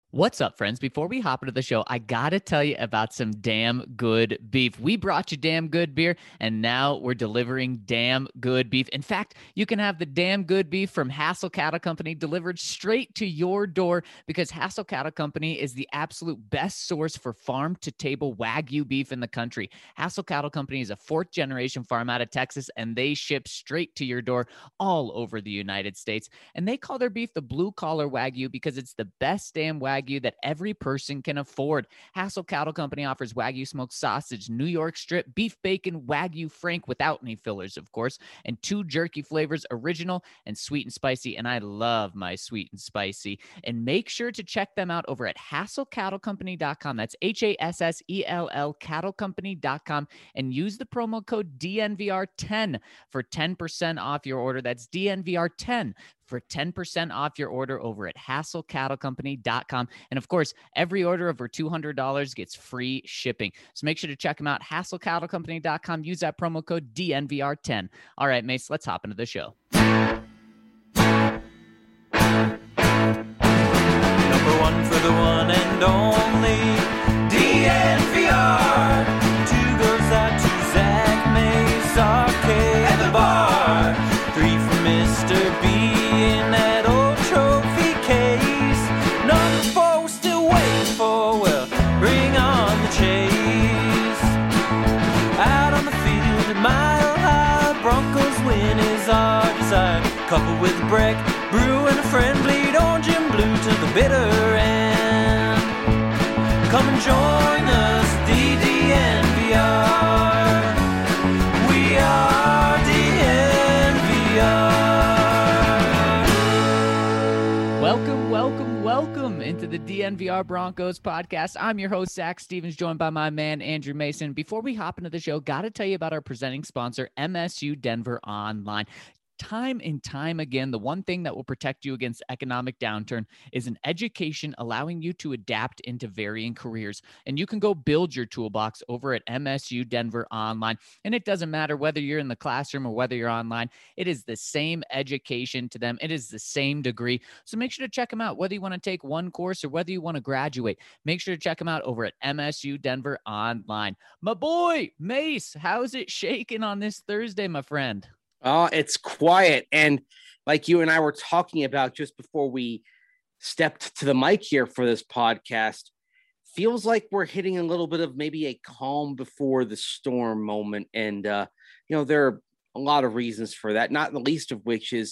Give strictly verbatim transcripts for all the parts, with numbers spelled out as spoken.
What's up, friends? Before we hop into the show, I got to tell you about some damn good beef. We brought you damn good beer, and now we're delivering damn good beef. In fact, you can have the damn good beef from Hassel Cattle Company delivered straight to your door because Hassel Cattle Company is the absolute best source for farm-to-table Wagyu beef in the country. Hassel Cattle Company is a fourth-generation farm out of Texas, and they ship straight to your door all over the United States. And they call their beef the blue-collar Wagyu because it's the best damn Wagyu that every person can afford. Hassel Cattle Company offers Wagyu smoked sausage, New York strip, beef bacon, Wagyu Frank without any fillers, of course, and two jerky flavors, original and sweet and spicy. And I love my sweet and spicy. And make sure to check them out over at hassel cattle company dot com. That's H A S S E L L cattle company dot com and use the promo code D N V R ten for ten percent off your order. That's D N V R ten for ten percent off your order over at hassel cattle company dot com. And of course, every order over two hundred dollars gets free shipping. So make sure to check them out, hassel cattle company dot com. Use that promo code D N V R ten. All right, Mace, let's hop into the show. Number one for the one and only D N V R. Two goes out to Zach Mace, R K, and the bar. Three for Mister B. In that old trophy case. Number four we're still waiting for, well, bring on the chase. Out on the field at Mile High, Broncos win is our desire. Coupled with Breck, Brew and a friend, bleed orange and blue to the bitter end. Come and join us, D D N V R. We are D N V R. Welcome, welcome, welcome into the D N V R Broncos podcast. I'm your host, Zach Stevens, joined by my man, Andrew Mason. Before we hop into the show, got to tell you about our presenting sponsor, M S U Denver Online. Time and time again, the one thing that will protect you against economic downturn is an education allowing you to adapt into varying careers. And you can go build your toolbox over at M S U Denver Online. And it doesn't matter whether you're in the classroom or whether you're online. It is the same education to them. It is the same degree. So make sure to check them out, whether you want to take one course or whether you want to graduate. Make sure to check them out over at M S U Denver Online. My boy, Mace, how's it shaking on this Thursday, my friend? Uh, it's quiet. And like you and I were talking about just before we stepped to the mic here for this podcast, feels like we're hitting a little bit of maybe a calm before the storm moment. And, uh, you know, there are a lot of reasons for that, not the least of which is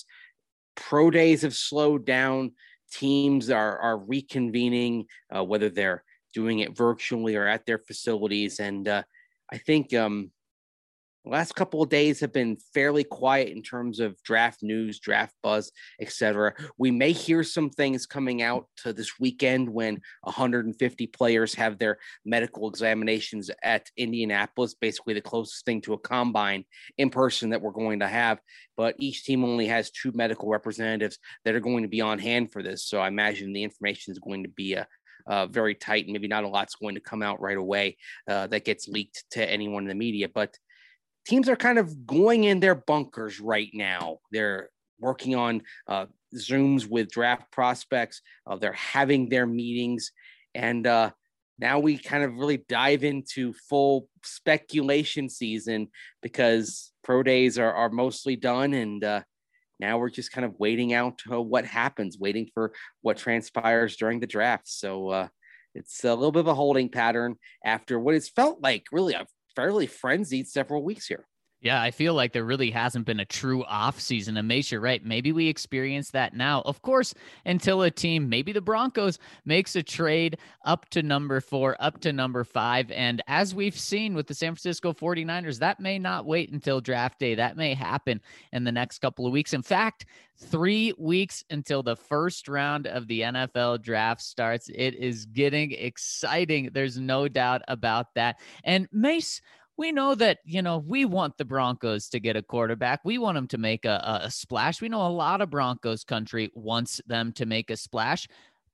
pro days have slowed down. Teams are, are reconvening, uh, whether they're doing it virtually or at their facilities. And uh, I think, um, the last couple of days have been fairly quiet in terms of draft news, draft buzz, et cetera. We may hear some things coming out to this weekend when one hundred fifty players have their medical examinations at Indianapolis, basically the closest thing to a combine in person that we're going to have. But each team only has two medical representatives that are going to be on hand for this. So I imagine the information is going to be a Uh, very tight, and maybe not a lot's going to come out right away uh, that gets leaked to anyone in the media. But teams are kind of going in their bunkers right now. They're working on uh, Zooms with draft prospects. Uh, they're having their meetings. And uh, now we kind of really dive into full speculation season because pro days are, are mostly done. And uh, now we're just kind of waiting out uh, what happens, waiting for what transpires during the draft. So uh, it's a little bit of a holding pattern after what has felt like really a fairly frenzied several weeks here. Yeah, I feel like there really hasn't been a true off season. And Mace, you're right. Maybe we experience that now. Of course, until a team, maybe the Broncos, makes a trade up to number four, up to number five. And as we've seen with the San Francisco forty-niners, that may not wait until draft day. That may happen in the next couple of weeks. In fact, three weeks until the first round of the N F L draft starts. It is getting exciting. There's no doubt about that. And Mace, we know that, you know, we want the Broncos to get a quarterback. We want them to make a, a splash. We know a lot of Broncos country wants them to make a splash.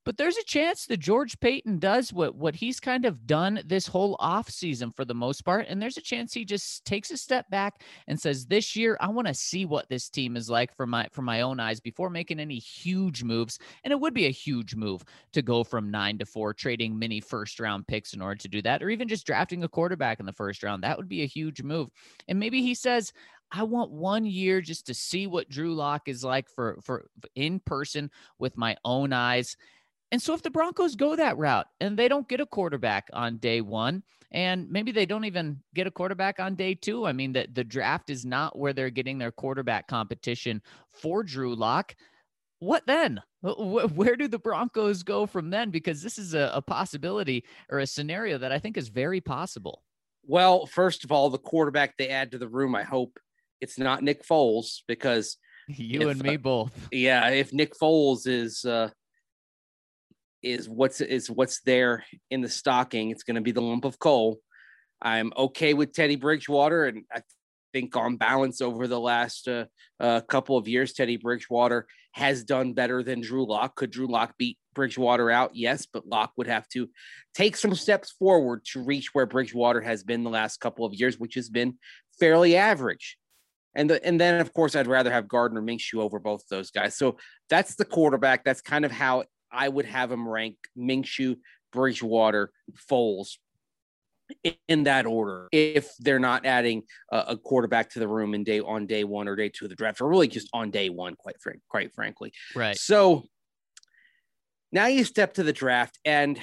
But there's a chance that George Paton does what, what he's kind of done this whole offseason for the most part. And there's a chance he just takes a step back and says, this year, I want to see what this team is like for my, for my own eyes before making any huge moves. And it would be a huge move to go from nine to four, trading many first round picks in order to do that, or even just drafting a quarterback in the first round. That would be a huge move. And maybe he says, I want one year just to see what Drew Lock is like for, for in person with my own eyes. And so if the Broncos go that route and they don't get a quarterback on day one, and maybe they don't even get a quarterback on day two, I mean, the, the draft is not where they're getting their quarterback competition for Drew Lock. What then? Where do the Broncos go from then? Because this is a, a possibility or a scenario that I think is very possible. Well, first of all, the quarterback they add to the room, I hope it's not Nick Foles, because you if, and me uh, both. Yeah, if Nick Foles is uh, is what's is what's there in the stocking, it's going to be the lump of coal. I'm okay with Teddy Bridgewater, and I think on balance over the last uh, uh, couple of years, Teddy Bridgewater has done better than Drew Lock. Could Drew Lock beat Bridgewater out? Yes, but Lock would have to take some steps forward to reach where Bridgewater has been the last couple of years, which has been fairly average. And the, and then, of course, I'd rather have Gardner Minshew over both those guys. So that's the quarterback. That's kind of how I would have him rank: Minshew, Bridgewater, Foles, in that order, if they're not adding a, a quarterback to the room in day on day one or day two of the draft, or really just on day one, quite frank, quite frankly. Right. So now you step to the draft, and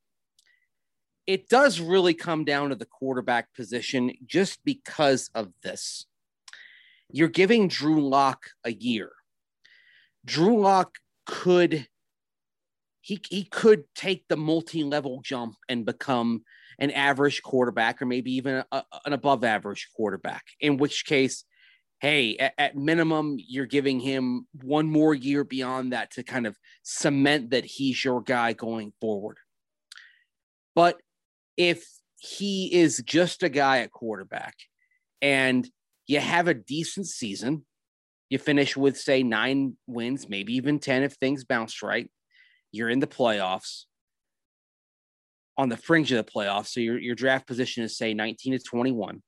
it does really come down to the quarterback position just because of this. You're giving Drew Lock a year. Drew Lock could he he could take the multi-level jump and become an average quarterback, or maybe even a, an above average quarterback, in which case, hey, at, at minimum, you're giving him one more year beyond that to kind of cement that he's your guy going forward. But if he is just a guy at quarterback and you have a decent season, you finish with, say, nine wins, maybe even ten if things bounce right, you're in the playoffs, on the fringe of the playoffs. So your, your draft position is, say, nineteen to twenty-one.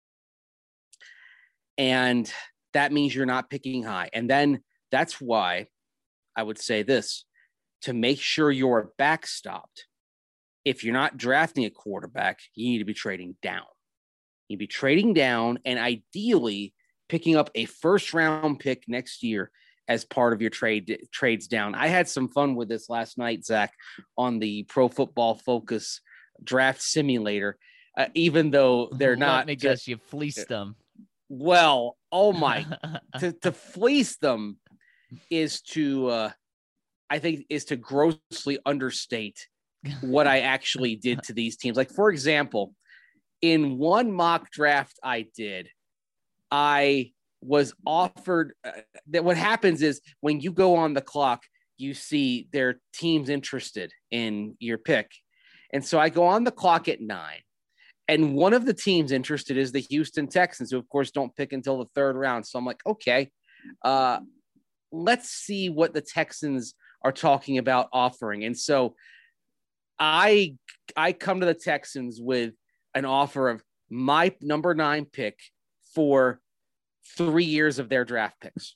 And that means you're not picking high. And then that's why I would say this: to make sure you're backstopped, if you're not drafting a quarterback, you need to be trading down. You'd be trading down and ideally picking up a first round pick next year as part of your trade trades down. I had some fun with this last night, Zach, on the Pro Football Focus draft simulator, uh, even though they're Let not. me guess, you fleeced them. Well, oh my, to, to fleece them is to, uh, I think, is to grossly understate what I actually did to these teams. Like, for example, in one mock draft I did, I was offered uh, that what happens is when you go on the clock, you see their teams interested in your pick. And so I go on the clock at nine, and one of the teams interested is the Houston Texans, who of course don't pick until the third round. So I'm like, okay, uh, let's see what the Texans are talking about offering. And so I, I come to the Texans with an offer of my number nine pick for three years of their draft picks.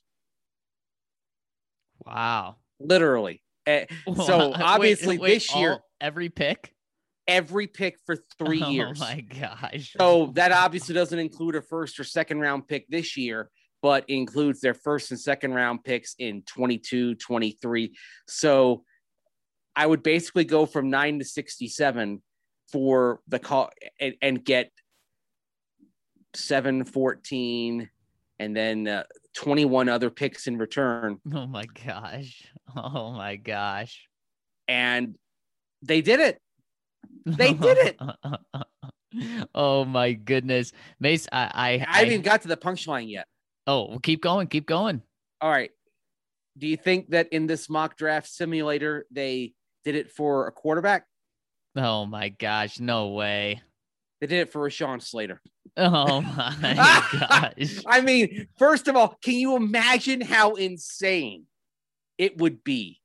Wow. Literally. Uh, so obviously wait, wait, this year, all, every pick, every pick for three oh years. Oh my gosh. So that obviously doesn't include a first or second round pick this year, but includes their first and second round picks in twenty-two, twenty-three. So I would basically go from nine to sixty-seven for the call and, and get seven, fourteen, and then uh, twenty-one other picks in return. Oh my gosh. Oh my gosh. And they did it. They did it. Oh my goodness. Mace, I I, I haven't even got to the punchline yet. Oh, well, keep going, keep going. All right. Do you think that in this mock draft simulator, they did it for a quarterback? Oh my gosh, no way. They did it for Rashawn Slater. Oh my gosh. I mean, first of all, can you imagine how insane it would be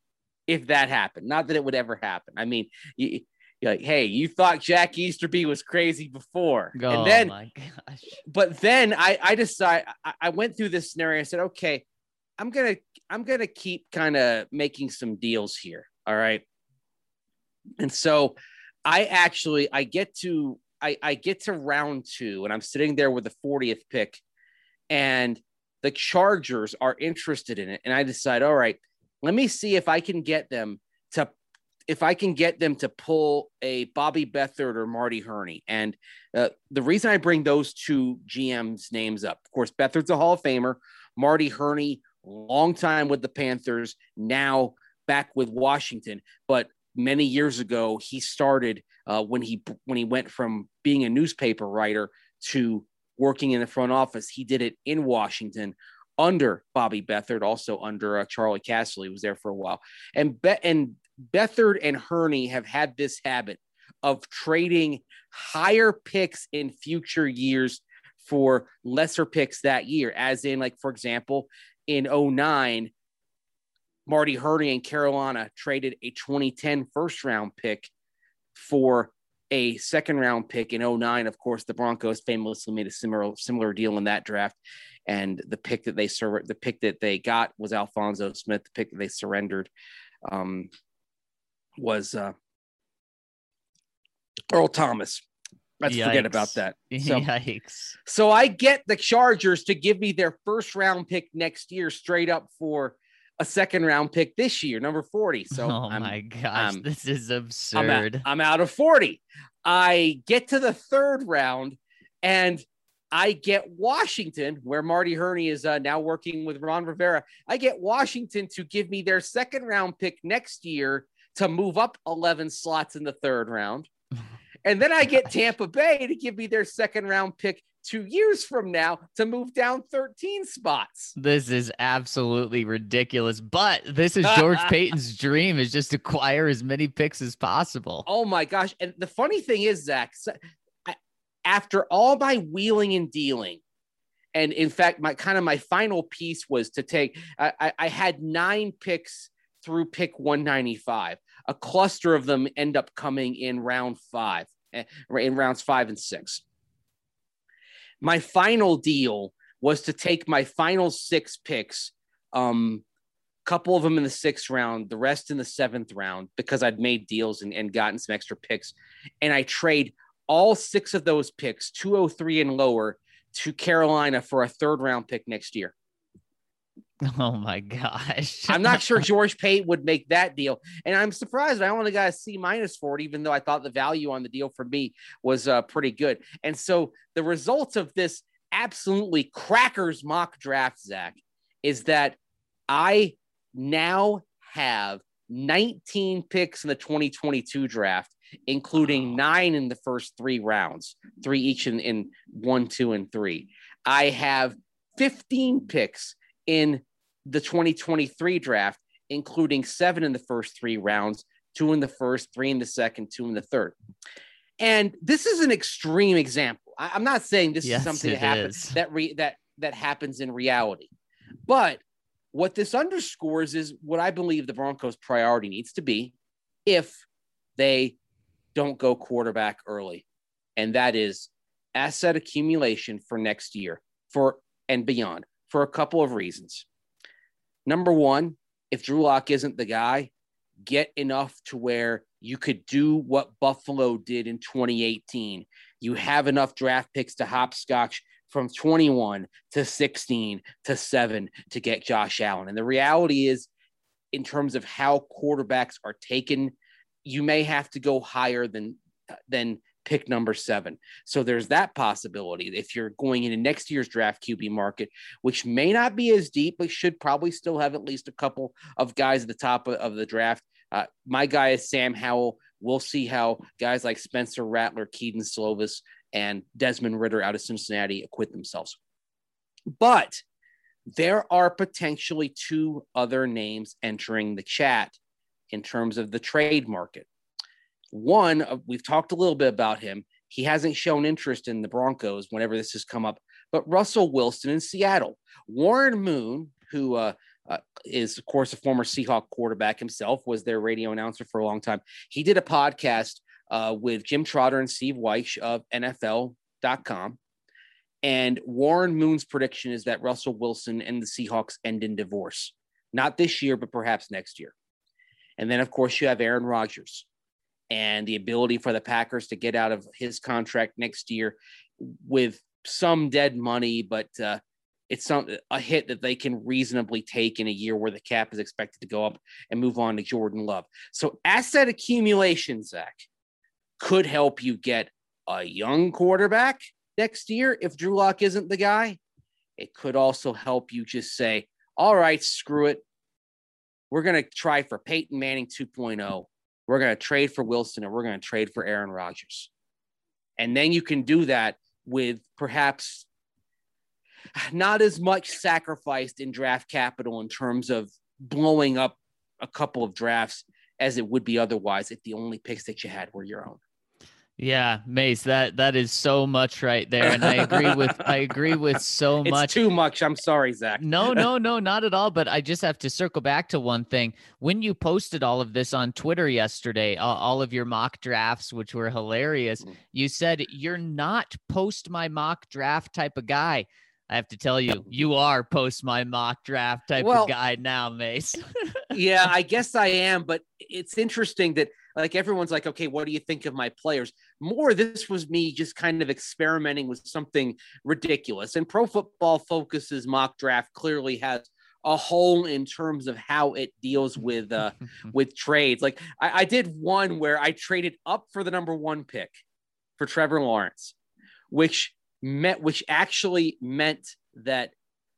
if that happened. Not that it would ever happen. I mean, you, you're like, hey, you thought Jack Easterby was crazy before. Oh, and then, my gosh. But then I, I decided, I, I went through this scenario. I said, okay, I'm going to, I'm going to keep kind of making some deals here. All right. And so I actually, I get to, I, I get to round two and I'm sitting there with the fortieth pick and the Chargers are interested in it. And I decide, all right, let me see if I can get them to, if I can get them to pull a Bobby Beathard or Marty Hurney. And uh, the reason I bring those two G Ms names up, of course, Beathard's a Hall of Famer, Marty Hurney, long time with the Panthers, now back with Washington. But many years ago, he started uh, when he when he went from being a newspaper writer to working in the front office. He did it in Washington under Bobby Beathard, also under uh, Charlie Casserly. He was there for a while. And Be- and Beathard and Hurney have had this habit of trading higher picks in future years for lesser picks that year. As in, like, for example, in oh nine, Marty Hurney and Carolina traded a twenty ten first round pick for a second round pick in oh nine. Of course, the Broncos famously made a similar similar deal in that draft. And the pick that they sur- the pick that they got was Alphonso Smith. The pick that they surrendered um, was uh, Earl Thomas. Let's Yikes. forget about that. So, Yikes. so I get the Chargers to give me their first round pick next year straight up for a second round pick this year, number forty. So oh I'm, my gosh, um, this is I'm absurd. out, I'm out of forty. I get to the third round and I get Washington, where Marty Hurney is uh, now working with Ron Rivera. I get Washington to give me their second round pick next year to move up eleven slots in the third round. And then I get Tampa Bay to give me their second round pick two years from now to move down thirteen spots. This is absolutely ridiculous. But this is George Payton's dream, is just acquire as many picks as possible. Oh my gosh. And the funny thing is, Zach, after all my wheeling and dealing, and in fact, my kind of my final piece was to take, I, I, I had nine picks through pick one ninety-five. A cluster of them end up coming in round five, in rounds five and six. My final deal was to take my final six picks, um, couple of them in the sixth round, the rest in the seventh round, because I'd made deals and, and gotten some extra picks. And I trade all six of those picks, two oh three and lower, to Carolina for a third round pick next year. Oh my gosh. I'm not sure George Payton would make that deal. And I'm surprised I only got a C minus for it, even though I thought the value on the deal for me was uh, pretty good. And so the results of this absolutely crackers mock draft, Zach, is that I now have nineteen picks in the twenty twenty-two draft, including nine in the first three rounds, three each in, in one, two, and three. I have fifteen picks in the twenty twenty-three draft, including seven in the first three rounds, two in the first, three in the second, two in the third. And this is an extreme example. I, I'm not saying this yes, is something that happens is. that re, that that happens in reality, but what this underscores is what I believe the Broncos' priority needs to be if they don't go quarterback early, and that is asset accumulation for next year for and beyond, for a couple of reasons. Number one, if Drew Lock isn't the guy, get enough to where you could do what Buffalo did in twenty eighteen. You have enough draft picks to hopscotch from twenty-one to sixteen to seven to get Josh Allen. And the reality is, in terms of how quarterbacks are taken, you may have to go higher than, than pick number seven. So there's that possibility if you're going into next year's draft Q B market, which may not be as deep, but should probably still have at least a couple of guys at the top of, of the draft. Uh, my guy is Sam Howell. We'll see how guys like Spencer Rattler, Keaton Slovis, and Desmond Ridder out of Cincinnati acquit themselves. But there are potentially two other names entering the chat in terms of the trade market. One, uh, we've talked a little bit about him. He hasn't shown interest in the Broncos whenever this has come up, but Russell Wilson in Seattle. Warren Moon, who uh, uh, is, of course, a former Seahawk quarterback himself, was their radio announcer for a long time. He did a podcast uh, with Jim Trotter and Steve Wyche of N F L dot com. And Warren Moon's prediction is that Russell Wilson and the Seahawks end in divorce. Not this year, but perhaps next year. And then, of course, you have Aaron Rodgers and the ability for the Packers to get out of his contract next year with some dead money, but uh, it's some a hit that they can reasonably take in a year where the cap is expected to go up, and move on to Jordan Love. So asset accumulation, Zach, could help you get a young quarterback next year if Drew Lock isn't the guy. It could also help you just say, all right, screw it. We're going to try for Peyton Manning two point oh. We're going to trade for Wilson, and we're going to trade for Aaron Rodgers. And then you can do that with perhaps not as much sacrificed in draft capital in terms of blowing up a couple of drafts as it would be otherwise if the only picks that you had were your own. Yeah, Mace, that that is so much right there, and I agree with I agree with so it's much. It's too much. I'm sorry, Zach. No, no, no, not at all. But I just have to circle back to one thing. When you posted all of this on Twitter yesterday, uh, all of your mock drafts, which were hilarious, mm. you said you're not post my mock draft type of guy. I have to tell you, you are post my mock draft type well, of guy now, Mace. Yeah, I guess I am. But it's interesting that, like, everyone's like, okay, what do you think of my players? More, this was me just kind of experimenting with something ridiculous. And Pro Football Focus's mock draft clearly has a hole in terms of how it deals with uh, with trades. Like, I, I did one where I traded up for the number one pick for Trevor Lawrence, which meant, which actually meant that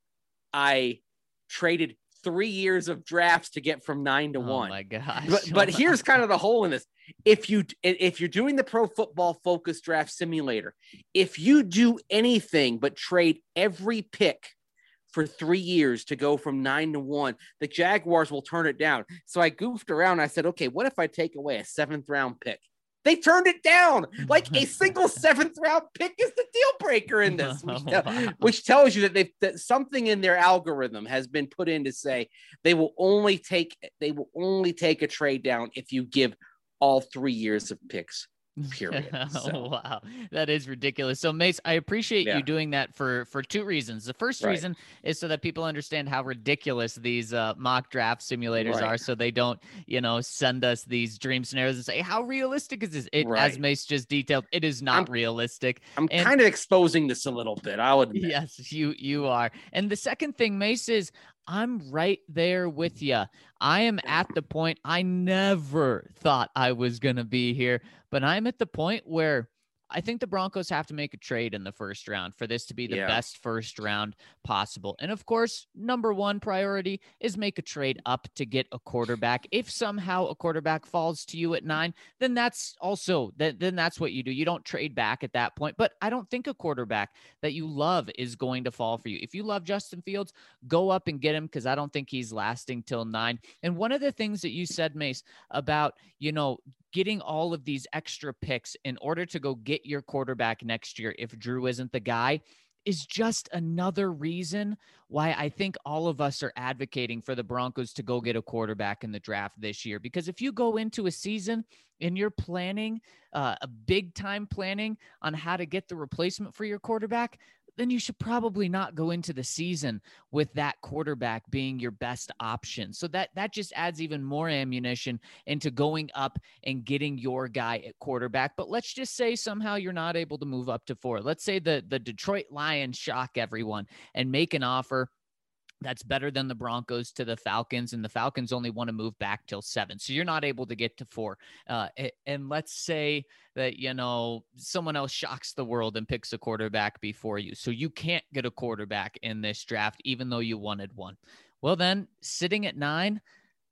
I traded three years of drafts to get from nine to oh one. Oh my gosh. But, but here's kind of the hole in this. If you, if you're doing the Pro Football Focus Draft Simulator, if you do anything but trade every pick for three years to go from nine to one, the Jaguars will turn it down. So I goofed around. I said, okay, what if I take away a seventh round pick? They turned it down. Like, a single seventh round pick is the deal breaker in this, which, tell, which tells you that they've that something in their algorithm has been put in to say they will only take they will only take a trade down if you give all three years of picks. Period. So. Oh, wow, that is ridiculous. So, Mace, I appreciate yeah. you doing that for for two reasons. The first right. reason is so that people understand how ridiculous these uh, mock draft simulators right. are, so they don't, you know, send us these dream scenarios and say, how realistic is this? It, right. As Mace just detailed, it is not I'm, realistic. I'm and, kind of exposing this a little bit, I'll admit. Yes, you you are. And the second thing, Mace, is I'm right there with you. I am at the point, I never thought I was going to be here, but I'm at the point where I think the Broncos have to make a trade in the first round for this to be the yeah. best first round possible. And of course, number one priority is make a trade up to get a quarterback. If somehow a quarterback falls to you at nine, then that's also, then, then that's what you do. You don't trade back at that point. But I don't think a quarterback that you love is going to fall for you. If you love Justin Fields, go up and get him, because I don't think he's lasting till nine. And one of the things that you said, Mace, about, you know, getting all of these extra picks in order to go get your quarterback next year if Drew isn't the guy is just another reason why I think all of us are advocating for the Broncos to go get a quarterback in the draft this year. Because if you go into a season and you're planning uh, a big time planning on how to get the replacement for your quarterback, then you should probably not go into the season with that quarterback being your best option. So that, that just adds even more ammunition into going up and getting your guy at quarterback. But let's just say somehow you're not able to move up to four. Let's say the, the Detroit Lions shock everyone and make an offer that's better than the Broncos to the Falcons, and the Falcons only want to move back till seven. So you're not able to get to four. Uh, and let's say that, you know, someone else shocks the world and picks a quarterback before you. So you can't get a quarterback in this draft, even though you wanted one. Well, then sitting at nine,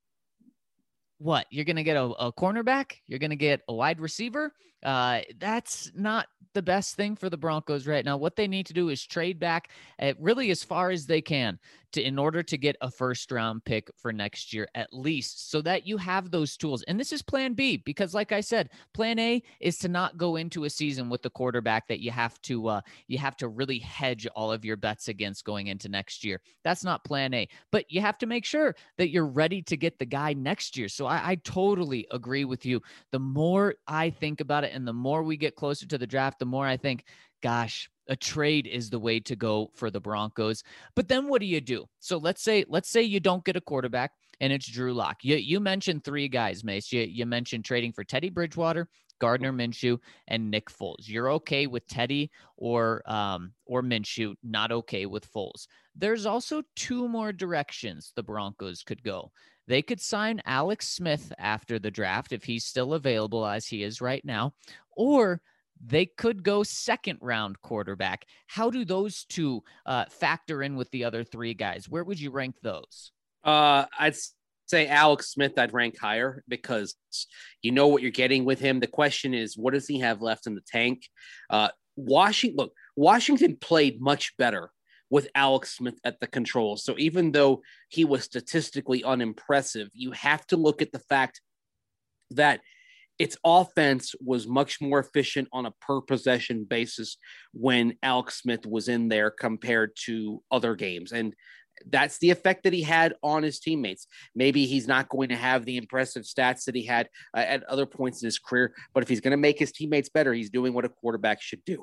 what? You're going to get a, a cornerback? You're going to get a wide receiver? Uh, that's not the best thing for the Broncos right now. What they need to do is trade back uh, really as far as they can to in order to get a first round pick for next year, at least, so that you have those tools. And this is plan B, because like I said, plan A is to not go into a season with the quarterback that you have to, uh, you have to really hedge all of your bets against going into next year. That's not plan A, but you have to make sure that you're ready to get the guy next year. So I, I totally agree with you. The more I think about it and the more we get closer to the draft, the more I think, gosh, a trade is the way to go for the Broncos. But then what do you do? So let's say, let's say you don't get a quarterback and it's Drew Lock. You, you mentioned three guys, Mace. You, you mentioned trading for Teddy Bridgewater, Gardner Minshew, and Nick Foles. You're okay with Teddy or um, or Minshew, not okay with Foles. There's also two more directions the Broncos could go. They could sign Alex Smith after the draft if he's still available as he is right now, or they could go second round quarterback. How do those two uh, factor in with the other three guys? Where would you rank those? Uh, I'd say Alex Smith, I'd rank higher because you know what you're getting with him. The question is, what does he have left in the tank? Uh, Washington, look, Washington played much better with Alex Smith at the controls. So even though he was statistically unimpressive, you have to look at the fact that its offense was much more efficient on a per possession basis when Alex Smith was in there compared to other games. And that's the effect that he had on his teammates. Maybe he's not going to have the impressive stats that he had uh, at other points in his career, but if he's going to make his teammates better, he's doing what a quarterback should do.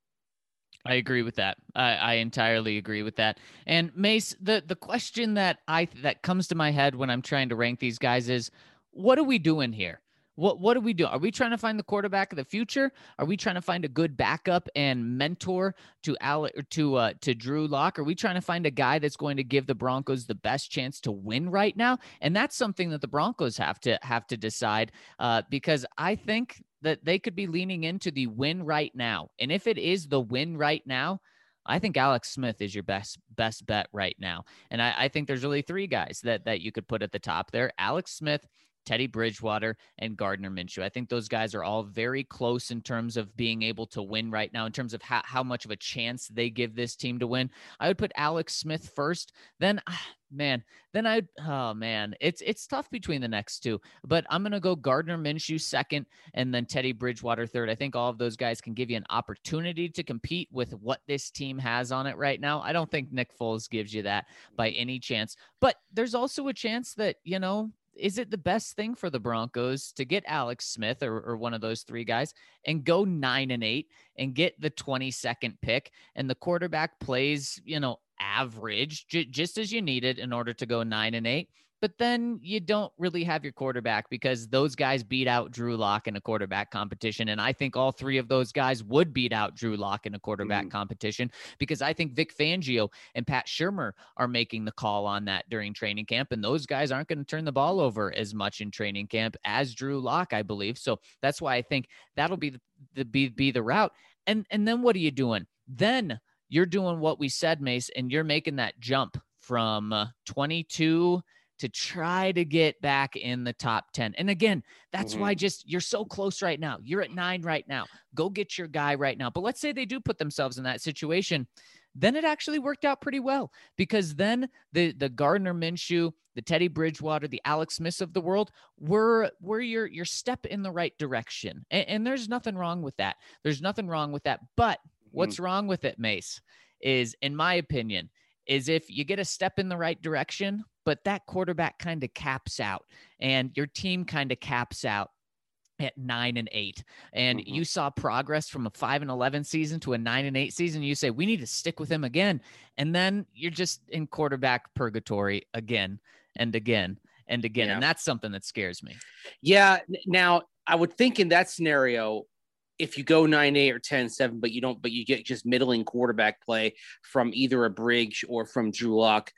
I agree with that. I, I entirely agree with that. And Mace, the, the question that I, that comes to my head when I'm trying to rank these guys is, what are we doing here? What what do we do? Are we trying to find the quarterback of the future? Are we trying to find a good backup and mentor to Ale, to uh, to Drew Lock? Are we trying to find a guy that's going to give the Broncos the best chance to win right now? And that's something that the Broncos have to have to decide uh, because I think that they could be leaning into the win right now. And if it is the win right now, I think Alex Smith is your best best bet right now. And I, I think there's really three guys that that you could put at the top there: Alex Smith, Teddy Bridgewater, and Gardner Minshew. I think those guys are all very close in terms of being able to win right now, in terms of how, how much of a chance they give this team to win. I would put Alex Smith first, then, man, then I'd, oh man, it's, it's tough between the next two, but I'm going to go Gardner Minshew second and then Teddy Bridgewater third. I think all of those guys can give you an opportunity to compete with what this team has on it right now. I don't think Nick Foles gives you that by any chance, but there's also a chance that, you know, is it the best thing for the Broncos to get Alex Smith or, or one of those three guys and go nine and eight and get the twenty-second pick, and the quarterback plays, you know, average, j- just as you needed in order to go nine and eight? But then you don't really have your quarterback because those guys beat out Drew Lock in a quarterback competition. And I think all three of those guys would beat out Drew Lock in a quarterback mm-hmm. competition, because I think Vic Fangio and Pat Shurmur are making the call on that during training camp. And those guys aren't going to turn the ball over as much in training camp as Drew Lock, I believe. So that's why I think that'll be the, the be, be the route. And, and then what are you doing? Then you're doing what we said, Mace, and you're making that jump from uh, twenty-two to try to get back in the top ten. And again, that's mm-hmm. why just you're so close right now. You're at nine right now. Go get your guy right now. But let's say they do put themselves in that situation. Then it actually worked out pretty well, because then the, the Gardner Minshew, the Teddy Bridgewater, the Alex Smith of the world were, were your, your step in the right direction. And, and there's nothing wrong with that. There's nothing wrong with that. But mm-hmm. what's wrong with it, Mace, is, in my opinion, is if you get a step in the right direction, but that quarterback kind of caps out and your team kind of caps out at nine and eight, and mm-hmm. you saw progress from a five and eleven season to a nine and eight season. You say, we need to stick with him again. And then you're just in quarterback purgatory again and again and again. Yeah. And that's something that scares me. Yeah. Now I would think in that scenario, if you go nine, eight or ten, seven, but you don't, but you get just middling quarterback play from either a Briggs or from Drew Lock,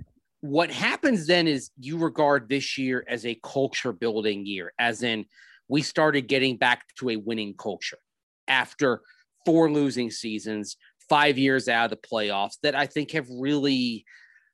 what happens then is you regard this year as a culture building year, as in we started getting back to a winning culture after four losing seasons, five years out of the playoffs that I think have really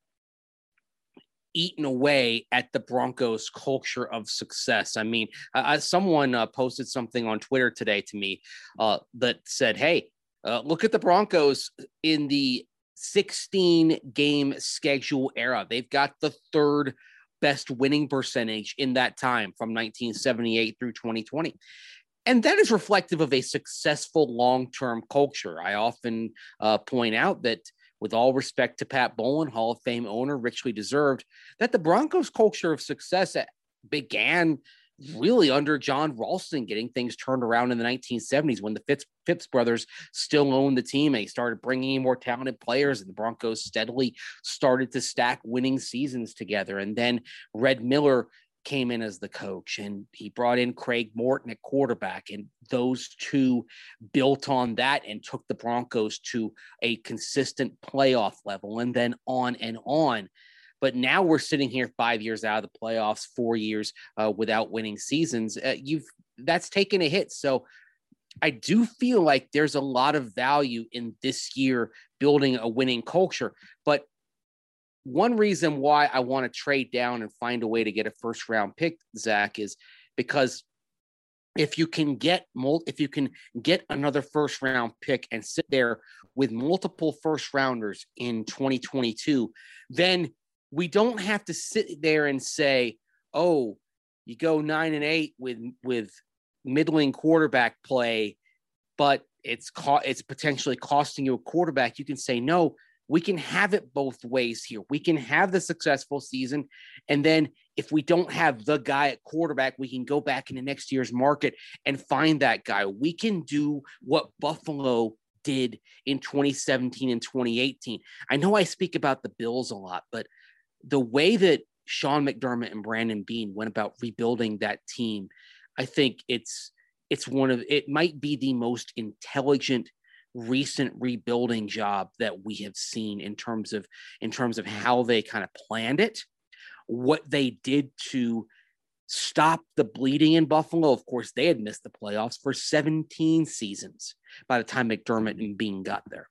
eaten away at the Broncos culture of success. I mean, uh, someone uh, posted something on Twitter today to me uh, that said, hey, uh, look at the Broncos in the sixteen game schedule era. They've got the third best winning percentage in that time from nineteen seventy-eight through twenty twenty. And that is reflective of a successful long-term culture. I often uh, point out that, with all respect to Pat Bowlen, Hall of Fame owner, richly deserved, that the Broncos culture of success began really under John Ralston, getting things turned around in the nineteen seventies when the Phipps, Phipps brothers still owned the team. And he started bringing in more talented players, and the Broncos steadily started to stack winning seasons together. And then Red Miller came in as the coach, and he brought in Craig Morton at quarterback, and those two built on that and took the Broncos to a consistent playoff level, and then on and on. But now we're sitting here five years out of the playoffs, four years uh, without winning seasons. Uh, you've that's taken a hit. So I do feel like there's a lot of value in this year building a winning culture. But one reason why I want to trade down and find a way to get a first round pick, Zach, is because if you can get if you can get another first round pick and sit there with multiple first rounders in twenty twenty-two, then we don't have to sit there and say, oh, you go nine and eight with with middling quarterback play, but it's co- it's potentially costing you a quarterback. You can say, no, we can have it both ways here. We can have the successful season, and then if we don't have the guy at quarterback, we can go back into next year's market and find that guy. We can do what Buffalo did in twenty seventeen and twenty eighteen. I know I speak about the Bills a lot, but the way that Sean McDermott and Brandon Beane went about rebuilding that team, I think it's it's one of it might be the most intelligent recent rebuilding job that we have seen in terms of in terms of how they kind of planned it, what they did to stop the bleeding in Buffalo. Of course, they had missed the playoffs for seventeen seasons by the time McDermott and Beane got there.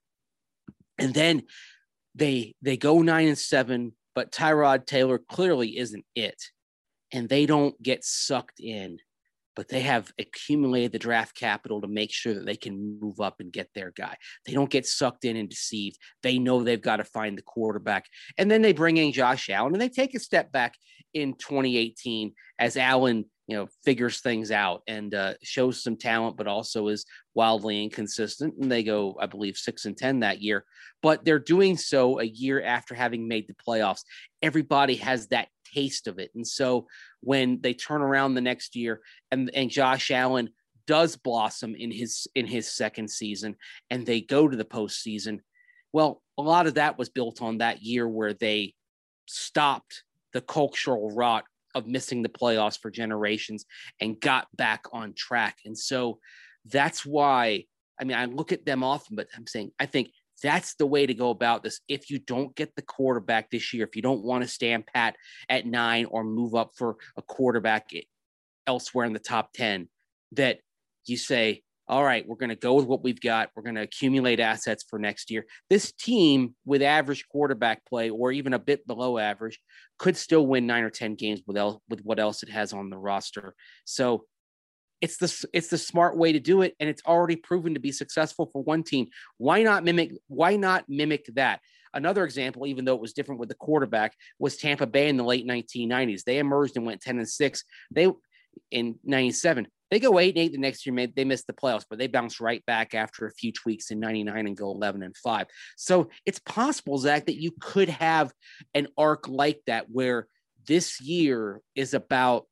And then they they go nine and seven, but Tyrod Taylor clearly isn't it. And they don't get sucked in, but they have accumulated the draft capital to make sure that they can move up and get their guy. They don't get sucked in and deceived. They know they've got to find the quarterback. And then they bring in Josh Allen, and they take a step back in twenty eighteen as Allen, you know, figures things out and uh, shows some talent, but also is wildly inconsistent. And they go, I believe, six and ten that year. But they're doing so a year after having made the playoffs. Everybody has that taste of it. And so when they turn around the next year and, and Josh Allen does blossom in his in his second season and they go to the postseason, well, a lot of that was built on that year where they stopped the cultural rot of missing the playoffs for generations and got back on track. And so that's why, I mean, I look at them often, but I'm saying, I think that's the way to go about this. If you don't get the quarterback this year, if you don't want to stand pat at nine or move up for a quarterback elsewhere in the top ten, that you say, all right, we're going to go with what we've got. We're going to accumulate assets for next year. This team with average quarterback play or even a bit below average could still win nine or ten games with, el- with what else it has on the roster. So it's the, it's the smart way to do it. And it's already proven to be successful for one team. Why not mimic, why not mimic that? Another example, even though it was different with the quarterback, was Tampa Bay in the late nineteen nineties. They emerged and went ten and six. They in ninety-seven. They go eight and eight the next year. They missed the playoffs, but they bounce right back after a few tweaks in ninety-nine and go eleven and five. So it's possible, Zach, that you could have an arc like that where this year is about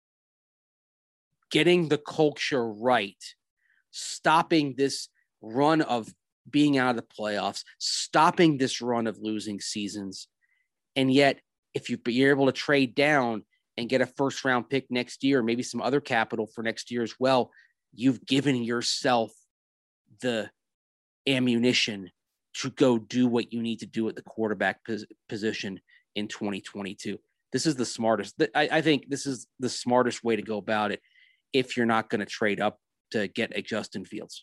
getting the culture right, stopping this run of being out of the playoffs, stopping this run of losing seasons. And yet, if you, you're able to trade down and get a first round pick next year, maybe some other capital for next year as well, you've given yourself the ammunition to go do what you need to do at the quarterback pos- position in twenty twenty-two. This is the smartest. I, I think this is the smartest way to go about it if you're not going to trade up to get a Justin Fields.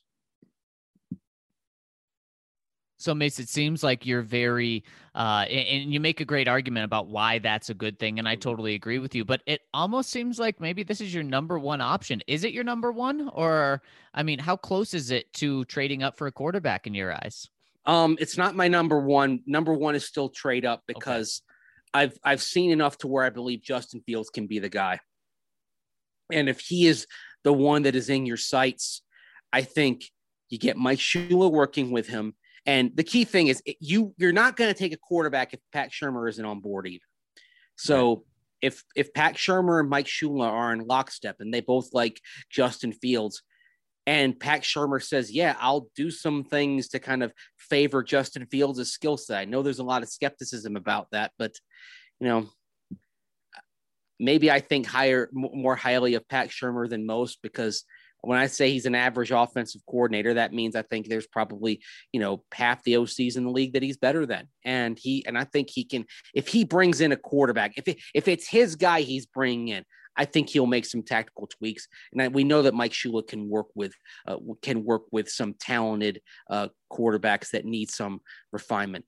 So, Mace, it seems like you're very, uh, and you make a great argument about why that's a good thing, and I totally agree with you, but it almost seems like maybe this is your number one option. Is it your number one? Or, I mean, how close is it to trading up for a quarterback in your eyes? Um, it's not my number one. Number one is still trade up because okay. I've I've seen enough to where I believe Justin Fields can be the guy. And if he is the one that is in your sights, I think you get Mike Shula working with him. And the key thing is you you're not going to take a quarterback if Pat Shurmur isn't on board either. So right. if if Pat Shurmur and Mike Shula are in lockstep and they both like Justin Fields, and Pat Shurmur says, yeah, I'll do some things to kind of favor Justin Fields' skill set. I know there's a lot of skepticism about that, but, you know, maybe I think higher, more highly of Pat Shurmur than most, because when I say he's an average offensive coordinator, that means I think there's probably, you know, half the O Cs in the league that he's better than. And he, and I think he can, if he brings in a quarterback, if it, if it's his guy he's bringing in, I think he'll make some tactical tweaks. And I, we know that Mike Shula can work with, uh, can work with some talented uh, quarterbacks that need some refinement.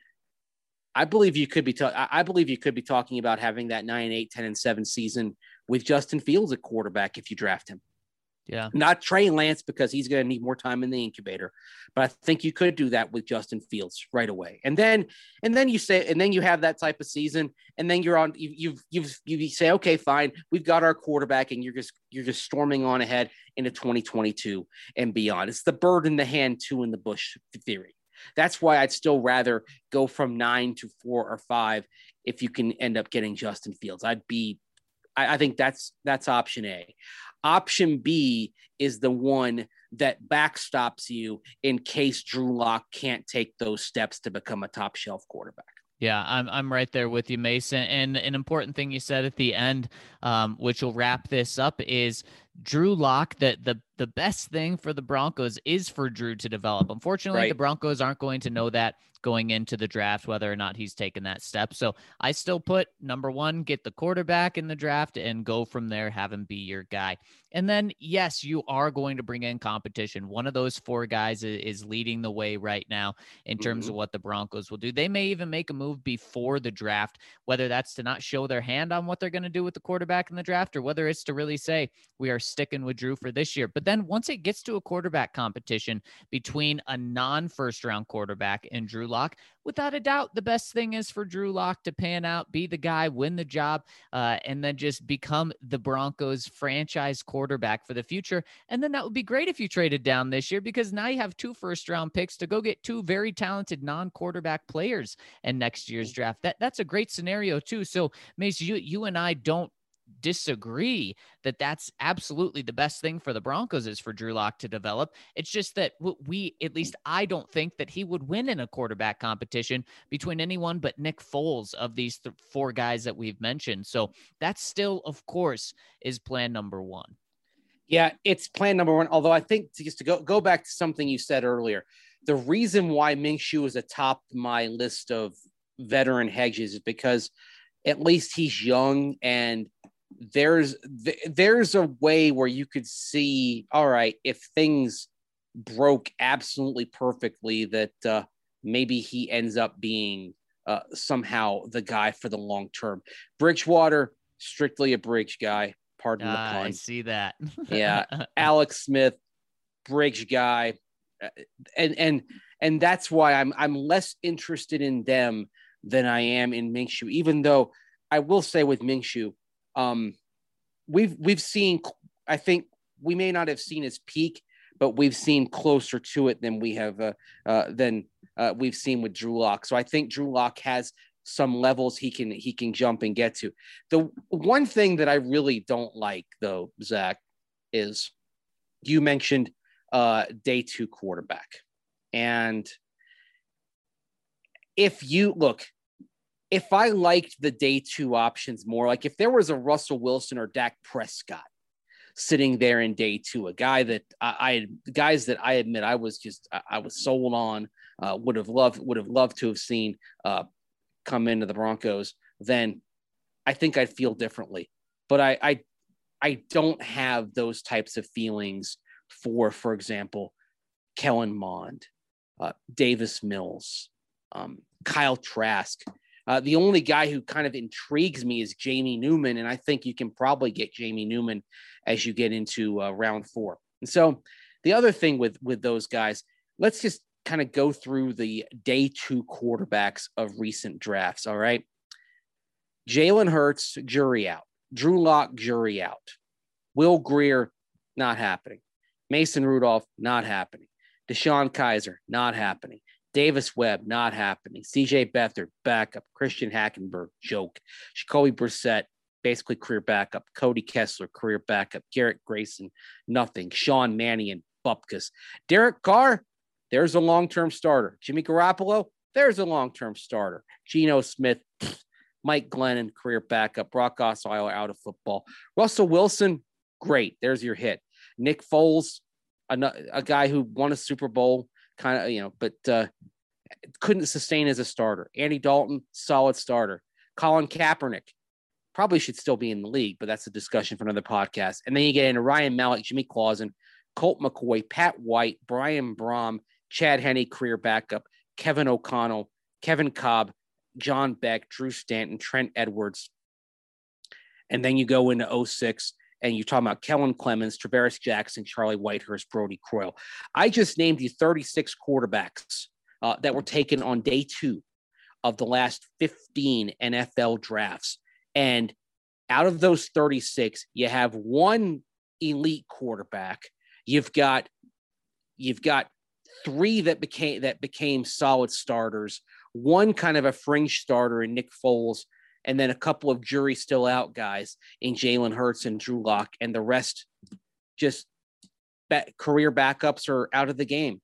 I believe you could be, ta- I believe you could be talking about having that nine, eight, ten and seven season with Justin Fields at quarterback if you draft him. Yeah. Not Trey Lance because he's going to need more time in the incubator, but I think you could do that with Justin Fields right away. And then, and then you say, and then you have that type of season, and then you're on, you, you've, you've, you say, okay, fine. We've got our quarterback, and you're just, you're just storming on ahead into twenty twenty-two and beyond. It's the bird in the hand, two in the bush theory. That's why I'd still rather go from nine to four or five. If you can end up getting Justin Fields, I'd be, I, I think that's, that's option A. Option B is the one that backstops you in case Drew Lock can't take those steps to become a top shelf quarterback. Yeah, I'm I'm right there with you, Mason. And an important thing you said at the end, um, which will wrap this up, is Drew Lock. That the the best thing for the Broncos is for Drew to develop. Unfortunately, right. the Broncos aren't going to know that going into the draft, whether or not he's taken that step. So I still put number one, get the quarterback in the draft and go from there, have him be your guy. And then, yes, you are going to bring in competition. One of those four guys is leading the way right now in terms mm-hmm. of what the Broncos will do. They may even make a move before the draft, whether that's to not show their hand on what they're going to do with the quarterback in the draft, or whether it's to really say, we are sticking with Drew for this year. But then once it gets to a quarterback competition between a non-first round quarterback and Drew Lock, without a doubt, the best thing is for Drew Lock to pan out, be the guy, win the job, uh, and then just become the Broncos franchise quarterback for the future. And then that would be great if you traded down this year, because now you have two first round picks to go get two very talented non-quarterback players in next year's draft. That that's a great scenario too. So Mace, you, you and I don't disagree that that's absolutely the best thing for the Broncos is for Drew Lock to develop. It's just that we, at least I don't think that he would win in a quarterback competition between anyone but Nick Foles of these th- four guys that we've mentioned. So that still, of course, is plan number one. Yeah, it's plan number one. Although I think to, just to go, go back to something you said earlier, the reason why Minshew is atop my list of veteran hedges is because at least he's young, and there's there's a way where you could see, all right, if things broke absolutely perfectly, that uh, maybe he ends up being uh, somehow the guy for the long term. Bridgewater, strictly a bridge guy. Pardon uh, the pun. I see that. Yeah, Alex Smith, bridge guy, and and and that's why I'm I'm less interested in them than I am in Minshew. Even though I will say with Minshew, um, we've we've seen. I think we may not have seen his peak, but we've seen closer to it than we have uh, uh, than uh, we've seen with Drew Lock. So I think Drew Lock has some levels he can he can jump and get to. The one thing that I really don't like, though, Zach, is you mentioned uh, day two quarterback. And if you look, if I liked the day two options more, like if there was a Russell Wilson or Dak Prescott sitting there in day two, a guy that I, I guys that I admit I was just I, I was sold on, uh, would have loved would have loved to have seen uh, come into the Broncos, then I think I'd feel differently. But I, I, I don't have those types of feelings for, for example, Kellen Mond, uh, Davis Mills, um, Kyle Trask. Uh, the only guy who kind of intrigues me is Jamie Newman, and I think you can probably get Jamie Newman as you get into uh, round four. And so the other thing with with those guys, let's just kind of go through the day two quarterbacks of recent drafts. All right. Jalen Hurts, jury out. Drew Lock, jury out. Will Grier, not happening. Mason Rudolph, not happening. Deshaun Kaiser, not happening. Davis Webb, not happening. C J Beathard, backup. Christian Hackenberg, joke. Jacoby Brissett, basically career backup. Cody Kessler, career backup. Garrett Grayson, nothing. Sean Mannion, bupkis. Derek Carr, there's a long-term starter. Jimmy Garoppolo, there's a long-term starter. Geno Smith, pfft. Mike Glennon, career backup. Brock Osweiler, out of football. Russell Wilson, great. There's your hit. Nick Foles, a, a guy who won a Super Bowl, kind of, you know, but uh, couldn't sustain as a starter. Andy Dalton, solid starter. Colin Kaepernick, probably should still be in the league, but that's a discussion for another podcast. And then you get into Ryan Mallett, Jimmy Clausen, Colt McCoy, Pat White, Brian Brom, Chad Henne, career backup, Kevin O'Connell, Kevin Cobb, John Beck, Drew Stanton, Trent Edwards. And then you go into oh six and you're talking about Kellen Clemens, Travaris Jackson, Charlie Whitehurst, Brody Croyle. I just named you thirty-six quarterbacks uh, that were taken on day two of the last fifteen N F L drafts. And out of those thirty-six, you have one elite quarterback. You've got, you've got three that became, that became solid starters, one kind of a fringe starter in Nick Foles, and then a couple of jury still out guys in Jalen Hurts and Drew Lock, and the rest just ba- career backups are out of the game.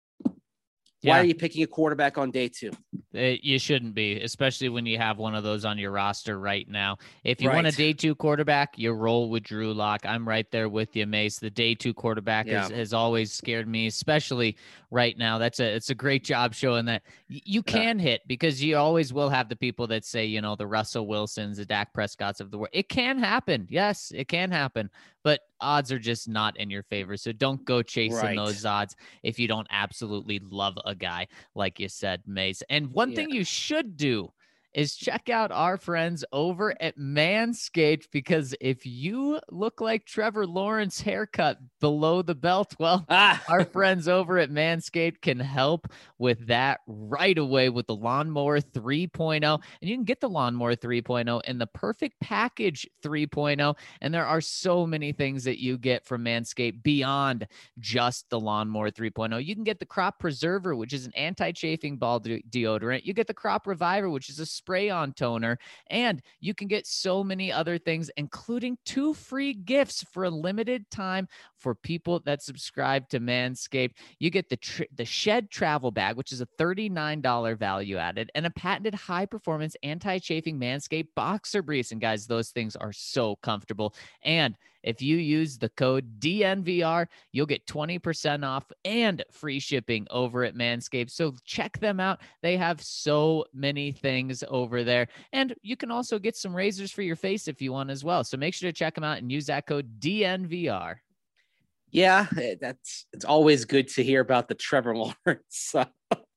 Yeah. Why are you picking a quarterback on day two? It, you shouldn't be, especially when you have one of those on your roster right now. If you Right. want a day two quarterback, you roll with Drew Lock. I'm right there with you, Mace. The day two quarterback Yeah. has, has always scared me, especially right now. That's a it's a great job showing that y- you can hit, because you always will have the people that say, you know, the Russell Wilsons, the Dak Prescotts of the world. It can happen. Yes, it can happen, but odds are just not in your favor. So don't go chasing Right. those odds if you don't absolutely love a guy, like you said, Mace. And one Yeah. thing you should do is check out our friends over at Manscaped, because if you look like Trevor Lawrence haircut below the belt, well, Ah, our friends over at Manscaped can help with that right away with the Lawnmower three point oh. And you can get the Lawnmower three point oh in the Perfect Package three point oh. And there are so many things that you get from Manscaped beyond just the Lawnmower three point oh. You can get the Crop Preserver, which is an anti-chafing ball de- deodorant. You get the Crop Reviver, which is a spray-on toner. And you can get so many other things, including two free gifts for a limited time for people that subscribe to Manscaped. You get the tr- the Shed Travel Bag, which is a thirty-nine dollars value added, and a patented high-performance anti-chafing Manscaped boxer briefs. And guys, those things are so comfortable. And if you use the code D N V R, you'll get twenty percent off and free shipping over at Manscaped. So check them out. They have so many things over there. And you can also get some razors for your face if you want as well. So make sure to check them out and use that code D N V R. yeah, that's it's always good to hear about the Trevor Lawrence uh,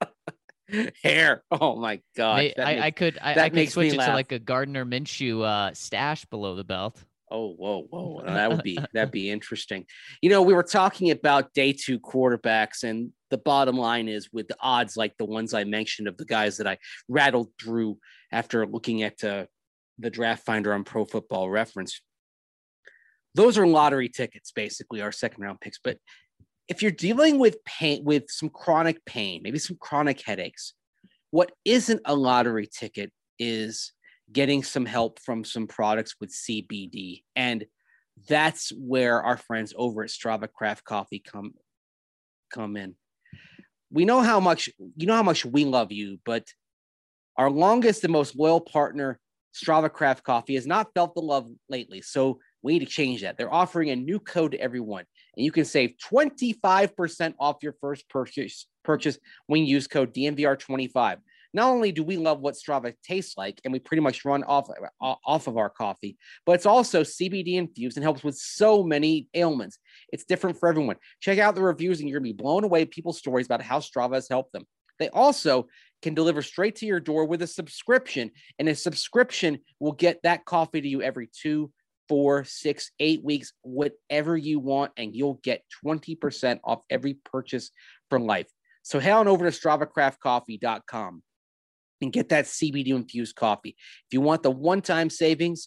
hair. Oh my God. May- I, I could I, that I could makes switch me it laugh. to like a Gardner Minshew uh, stash below the belt. Oh, whoa, whoa. That would be that'd be interesting. You know, we were talking about day two quarterbacks, and the bottom line is, with the odds like the ones I mentioned of the guys that I rattled through after looking at uh, the draft finder on Pro Football Reference, those are lottery tickets, basically, our second round picks. But if you're dealing with pain, with some chronic pain, maybe some chronic headaches, what isn't a lottery ticket is getting some help from some products with C B D. And that's where our friends over at Strava Craft Coffee come, come in. We know how much, you know how much we love you, but our longest and most loyal partner, Strava Craft Coffee, has not felt the love lately. So we need to change that. They're offering a new code to everyone, and you can save twenty-five percent off your first purchase, purchase when you use code D N V R twenty-five. Not only do we love what Strava tastes like, and we pretty much run off, off of our coffee, but it's also C B D infused and helps with so many ailments. It's different for everyone. Check out the reviews, and you're going to be blown away with people's stories about how Strava has helped them. They also can deliver straight to your door with a subscription, and a subscription will get that coffee to you every two, four, six, eight weeks, whatever you want, and you'll get twenty percent off every purchase for life. So head on over to strava craft coffee dot com and get that C B D infused coffee. If you want the one-time savings,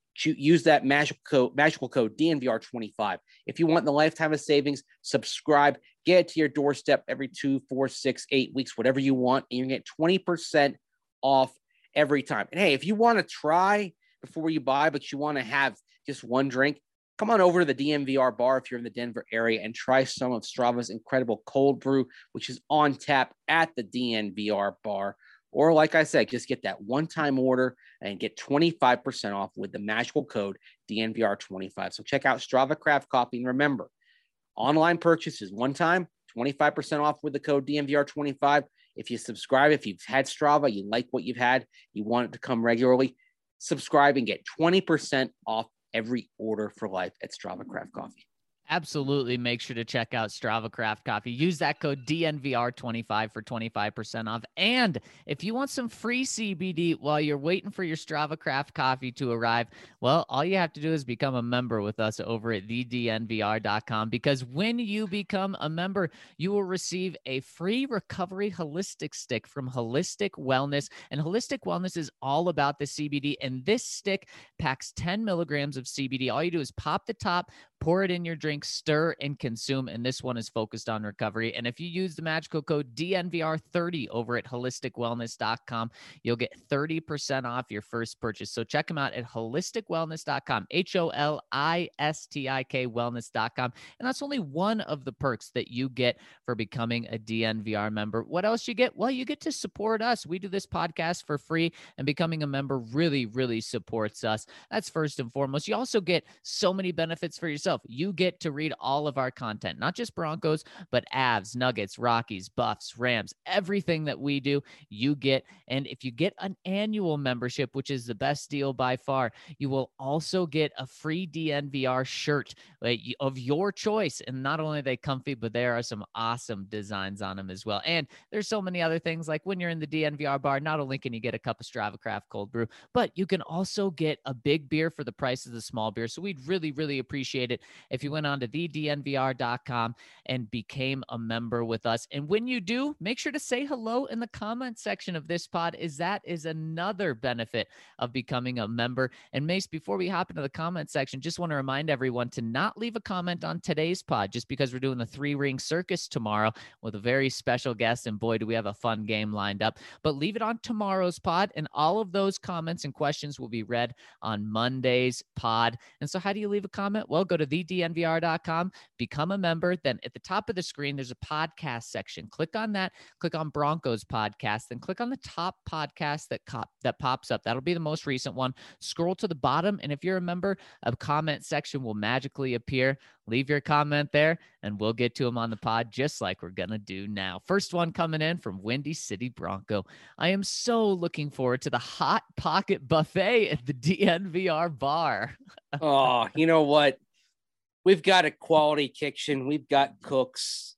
use that magical code, magical code D N V R twenty-five. If you want the lifetime of savings, subscribe, get it to your doorstep every two, four, six, eight weeks, whatever you want, and you get twenty percent off every time. And hey, if you want to try before you buy, but you want to have just one drink, come on over to the D N V R bar if you're in the Denver area and try some of Strava's incredible cold brew, which is on tap at the D N V R bar. Or like I said, just get that one-time order and get twenty-five percent off with the magical code D N V R twenty-five. So check out Strava Craft Coffee. And remember, online purchase is one time, twenty-five percent off with the code D N V R twenty-five. If you subscribe, if you've had Strava, you like what you've had, you want it to come regularly, subscribe and get twenty percent off every order for life at Strava Craft Coffee. Absolutely. Make sure to check out Strava Craft Coffee. Use that code D N V R twenty-five for twenty-five percent off. And if you want some free C B D while you're waiting for your Strava Craft Coffee to arrive, well, all you have to do is become a member with us over at the D N V R dot com, because when you become a member, you will receive a free recovery holistic stick from Holistic Wellness. And Holistic Wellness is all about the C B D. And this stick packs ten milligrams of C B D. All you do is pop the top, pour it in your drink, stir, and consume. And this one is focused on recovery. And if you use the magical code D N V R thirty over at holistic wellness dot com, you'll get thirty percent off your first purchase. So check them out at holistic wellness dot com, H O L I S T I K wellness dot com. And that's only one of the perks that you get for becoming a D N V R member. What else you get? Well, you get to support us. We do this podcast for free, and becoming a member really, really supports us. That's first and foremost. You also get so many benefits for yourself. You get to read all of our content, not just Broncos, but Avs, Nuggets, Rockies, Buffs, Rams, everything that we do, you get. And if you get an annual membership, which is the best deal by far, you will also get a free D N V R shirt of your choice. And not only are they comfy, but there are some awesome designs on them as well. And there's so many other things, like when you're in the D N V R bar, not only can you get a cup of Strava Craft cold brew, but you can also get a big beer for the price of the small beer. So we'd really, really appreciate it if you went on to the D N V R dot com and became a member with us. And when you do, make sure to say hello in the comment section of this pod, is that is another benefit of becoming a member. And Mace, before we hop into the comment section, just want to remind everyone to not leave a comment on today's pod, just because we're doing the three ring circus tomorrow with a very special guest. And boy, do we have a fun game lined up, but leave it on tomorrow's pod. And all of those comments and questions will be read on Monday's pod. And so how do you leave a comment? Well, go to the D N V R dot com, become a member. Then at the top of the screen, there's a podcast section. Click on that, click on Broncos podcast, then click on the top podcast that cop, that pops up. That'll be the most recent one. Scroll to the bottom, and if you're a member, a comment section will magically appear. Leave your comment there, and we'll get to them on the pod, just like we're going to do now. First one coming in from Windy City Bronco. I am so looking forward to the Hot Pocket Buffet at the D N V R bar. Oh, you know what? We've got a quality kitchen. We've got cooks.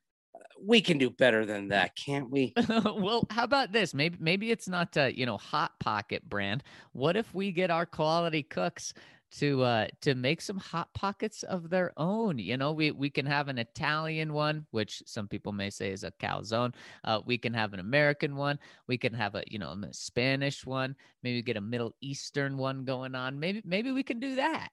We can do better than that, can't we? Well, how about this? Maybe maybe it's not uh, you know, Hot Pocket brand. What if we get our quality cooks to uh to make some hot pockets of their own? You know, we we can have an Italian one, which some people may say is a calzone. Uh, we can have an American one. We can have a, you know, a Spanish one. Maybe get a Middle Eastern one going on. Maybe maybe we can do that.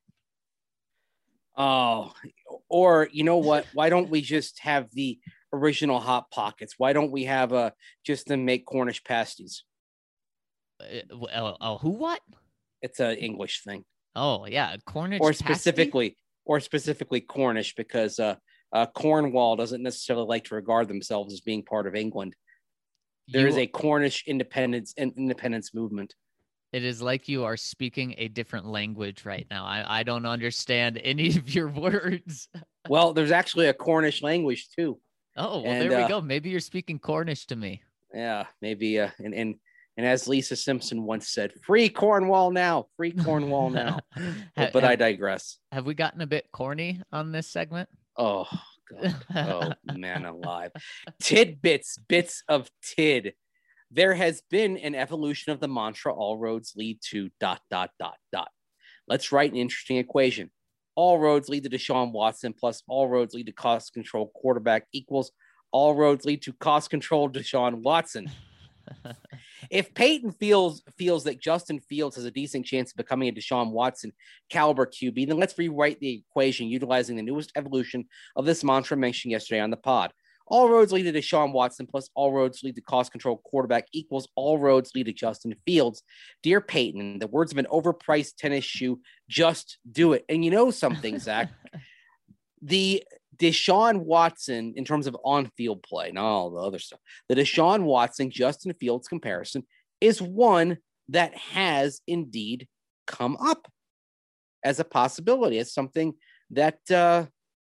Oh, or you know what? Why don't we just have the original Hot Pockets? Why don't we have a just to make Cornish pasties? Uh, uh, uh, who what? It's an English thing. Oh yeah, Cornish or pasty? specifically, or specifically Cornish, because uh, uh, Cornwall doesn't necessarily like to regard themselves as being part of England. There You- is a Cornish independence and independence movement. It is like you are speaking a different language right now. I, I don't understand any of your words. Well, there's actually a Cornish language too. Oh, well, And, there we uh, go. Maybe you're speaking Cornish to me. Yeah, maybe. Uh, and and and as Lisa Simpson once said, "Free Cornwall now, free Cornwall now." Ha- But I have, digress. have we gotten a bit corny on this segment? Oh, God. Oh, man alive. Tidbits, bits of tid. There has been an evolution of the mantra, all roads lead to dot, dot, dot, dot. Let's write an interesting equation. All roads lead to Deshaun Watson plus all roads lead to cost control quarterback equals all roads lead to cost control Deshaun Watson. If Peyton feels feels that Justin Fields has a decent chance of becoming a Deshaun Watson caliber Q B, then let's rewrite the equation utilizing the newest evolution of this mantra mentioned yesterday on the pod. All roads lead to Deshaun Watson plus all roads lead to cost control quarterback equals all roads lead to Justin Fields. Dear Peyton, in the words of an overpriced tennis shoe, just do it. And you know something, Zach, the Deshaun Watson, in terms of on-field play, not all the other stuff, the Deshaun Watson, Justin Fields comparison is one that has indeed come up as a possibility, as something that uh,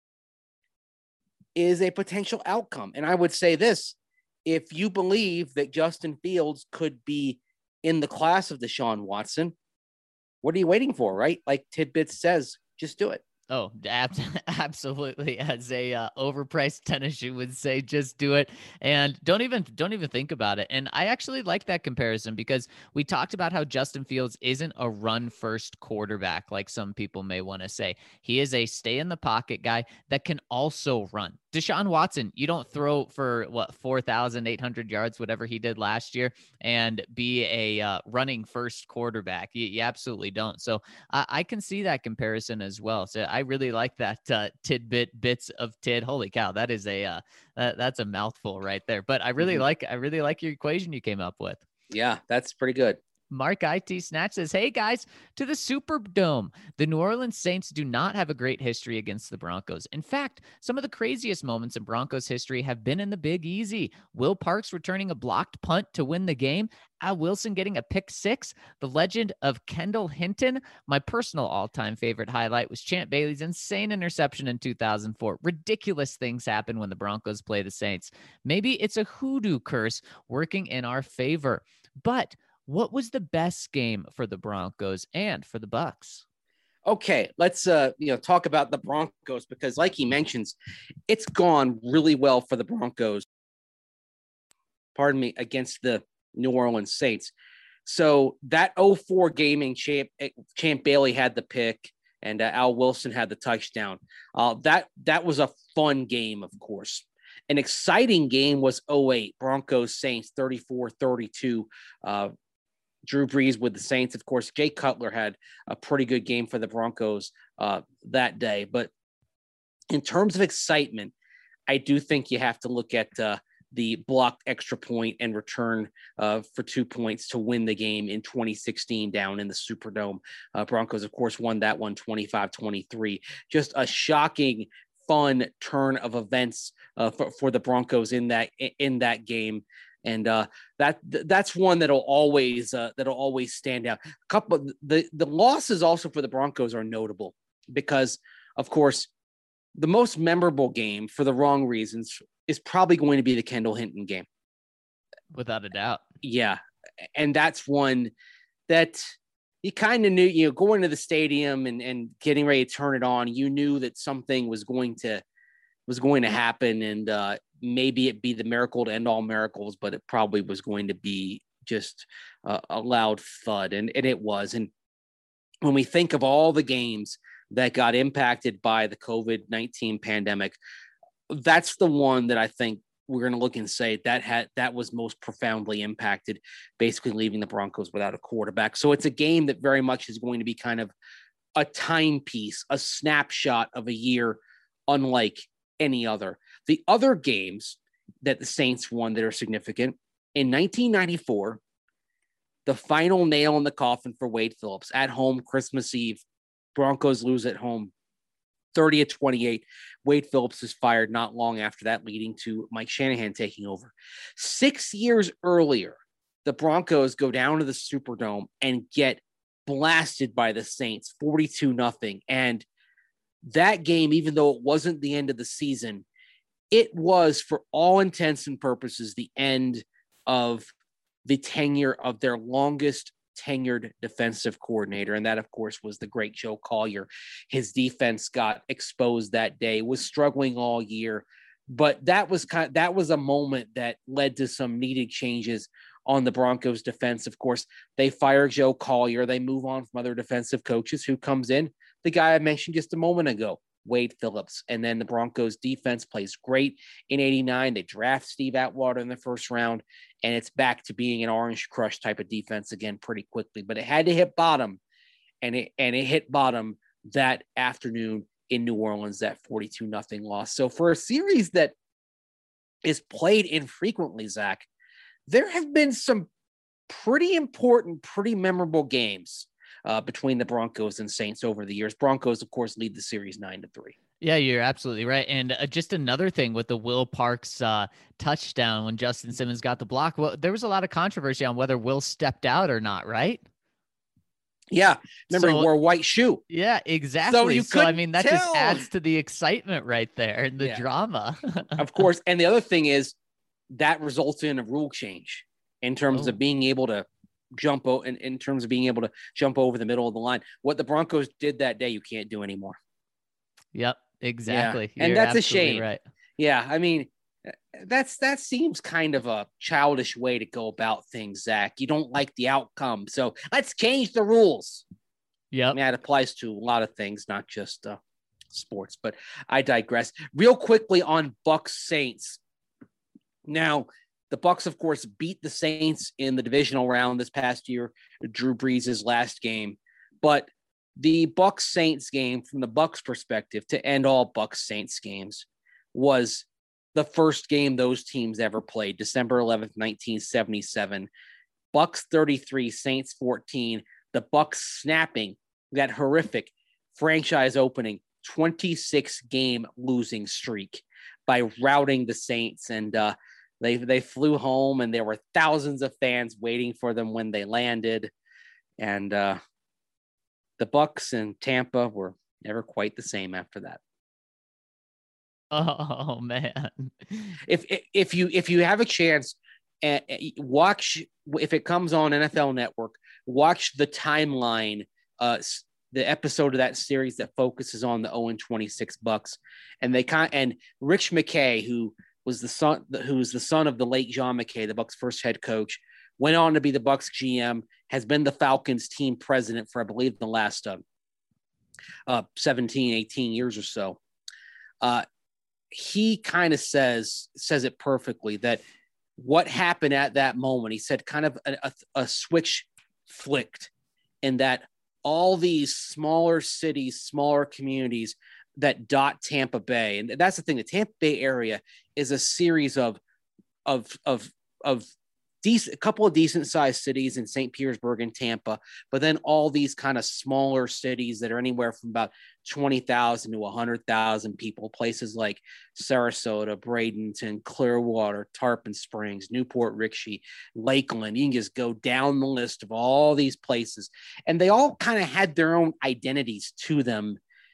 is a potential outcome. And I would say this, if you believe that Justin Fields could be in the class of Deshaun Watson, what are you waiting for, right? Like Tidbits says, just do it. Oh, ab- absolutely. As a uh, overpriced tennis shoe would say, just do it. And don't even, don't even think about it. And I actually like that comparison because we talked about how Justin Fields isn't a run first quarterback, like some people may want to say. He is a stay in the pocket guy that can also run. Deshaun Watson, you don't throw for what, four thousand eight hundred yards, whatever he did last year, and be a uh, running first quarterback. You, you absolutely don't. So uh, I can see that comparison as well. So I really like that uh, tidbit bits of tid. Holy cow. That is a, uh, that, that's a mouthful right there, but I really mm-hmm. like, I really like your equation you came up with. Yeah, that's pretty good. Mark I T Snatch says, hey guys, to the Superdome. The New Orleans Saints do not have a great history against the Broncos. In fact, some of the craziest moments in Broncos history have been in the Big Easy. Will Parks returning a blocked punt to win the game. Al Wilson getting a pick six. The legend of Kendall Hinton. My personal all-time favorite highlight was Champ Bailey's insane interception in two thousand four. Ridiculous things happen when the Broncos play the Saints. Maybe it's a hoodoo curse working in our favor. But what was the best game for the Broncos and for the Bucs? Okay, let's uh, you know talk about the Broncos because, like he mentions, it's gone really well for the Broncos. Pardon me, against the New Orleans Saints. So that oh four game in Champ Champ Bailey had the pick, and uh, Al Wilson had the touchdown. Uh, that that was a fun game, of course. An exciting game was oh eight Broncos Saints thirty-four thirty-two. Uh, Drew Brees with the Saints. Of course, Jay Cutler had a pretty good game for the Broncos uh, that day. But in terms of excitement, I do think you have to look at uh, the blocked extra point and return uh, for two points to win the game in twenty sixteen down in the Superdome. Uh, Broncos, of course, won that one twenty-five twenty-three. Just a shocking, fun turn of events uh, for, for the Broncos in that in that game. And uh, that that's one that'll always uh, that'll always stand out. A couple the the losses also for the Broncos are notable because, of course, the most memorable game for the wrong reasons is probably going to be the Kendall Hinton game, without a doubt. Yeah, and that's one that you kind of knew. You know, going to the stadium and and getting ready to turn it on, you knew that something was going to was going to happen, and uh, maybe it be the miracle to end all miracles, but it probably was going to be just uh, a loud thud, and, and it was. And when we think of all the games that got impacted by the COVID nineteen pandemic, that's the one that I think we're going to look and say that had that was most profoundly impacted, basically leaving the Broncos without a quarterback. So it's a game that very much is going to be kind of a timepiece, a snapshot of a year unlike any other. The other games that the Saints won that are significant in nineteen ninety-four, the final nail in the coffin for Wade Phillips at home, Christmas Eve, Broncos lose at home thirty to twenty-eight. Wade Phillips is fired not long after that, leading to Mike Shanahan taking over. Six years earlier, the Broncos go down to the Superdome and get blasted by the Saints forty-two nothing. And that game, even though it wasn't the end of the season, it was, for all intents and purposes, the end of the tenure of their longest tenured defensive coordinator. And that, of course, was the great Joe Collier. His defense got exposed that day, was struggling all year. But that was kind of, that was a moment that led to some needed changes on the Broncos defense. Of course, they fire Joe Collier. They move on from other defensive coaches. Who comes in? The guy I mentioned just a moment ago, Wade Phillips. And then the Broncos defense plays great in eighty-nine. They draft Steve Atwater in the first round, and it's back to being an orange crush type of defense again pretty quickly. But it had to hit bottom, and it and it hit bottom that afternoon in New Orleans, that forty-two nothing loss. So for a series that is played infrequently, Zach, there have been some pretty important, pretty memorable games uh, between the Broncos and Saints over the years. Broncos, of course, lead the series nine to three. Yeah, you're absolutely right. And uh, just another thing with the Will Parks uh, touchdown when Justin Simmons got the block. Well, there was a lot of controversy on whether Will stepped out or not, right? Yeah. Remember, So, he wore a white shoe. Yeah, exactly. So, you so I mean, that tell. just adds to the excitement right there and the Yeah. drama. Of course. And the other thing is that results in a rule change in terms Oh. of being able to jump o- in, in terms of being able to jump over the middle of the line. What the Broncos did that day, you can't do anymore. Yep, exactly. Yeah. And You're that's a absolutely shame. Right. Yeah. I mean, that's that seems kind of a childish way to go about things, Zach. You don't like the outcome, so let's change the rules. Yep. I mean, that applies to a lot of things, not just uh, sports, but I digress. Real quickly on Bucks Saints. Now, the Bucks, of course, beat the Saints in the divisional round this past year, Drew Brees' last game. But the Bucks Saints game, from the Bucks perspective, to end all Bucks Saints games, was the first game those teams ever played, December eleventh, nineteen seventy-seven. Bucks thirty-three, Saints fourteen. The Bucks snapping that horrific franchise opening twenty-six game losing streak by routing the Saints. And uh, they they flew home, and there were thousands of fans waiting for them when they landed. And uh, the Bucks and Tampa were never quite the same after that. Oh man. If if you if you have a chance, uh, watch, if it comes on N F L Network, watch the timeline, uh, the episode of that series that focuses on the oh and twenty-six Bucks, and they kind and Rich McKay, who was the son, who's the son of the late John McKay, the Bucks' first head coach, went on to be the Bucks G M, has been the Falcons team president for, I believe, the last uh, uh, seventeen, eighteen years or so. Uh, he kind of says, says it perfectly, that what happened at that moment, he said kind of a, a, a switch flicked, in that all these smaller cities, smaller communities that dot Tampa Bay. And that's the thing, the Tampa Bay area is a series of, of, of, of decent, a couple of decent sized cities in Saint Petersburg and Tampa, but then all these kind of smaller cities that are anywhere from about twenty thousand to one hundred thousand people, places like Sarasota, Bradenton, Clearwater, Tarpon Springs, Newport Richey, Lakeland. You can just go down the list of all these places. And they all kind of had their own identities to them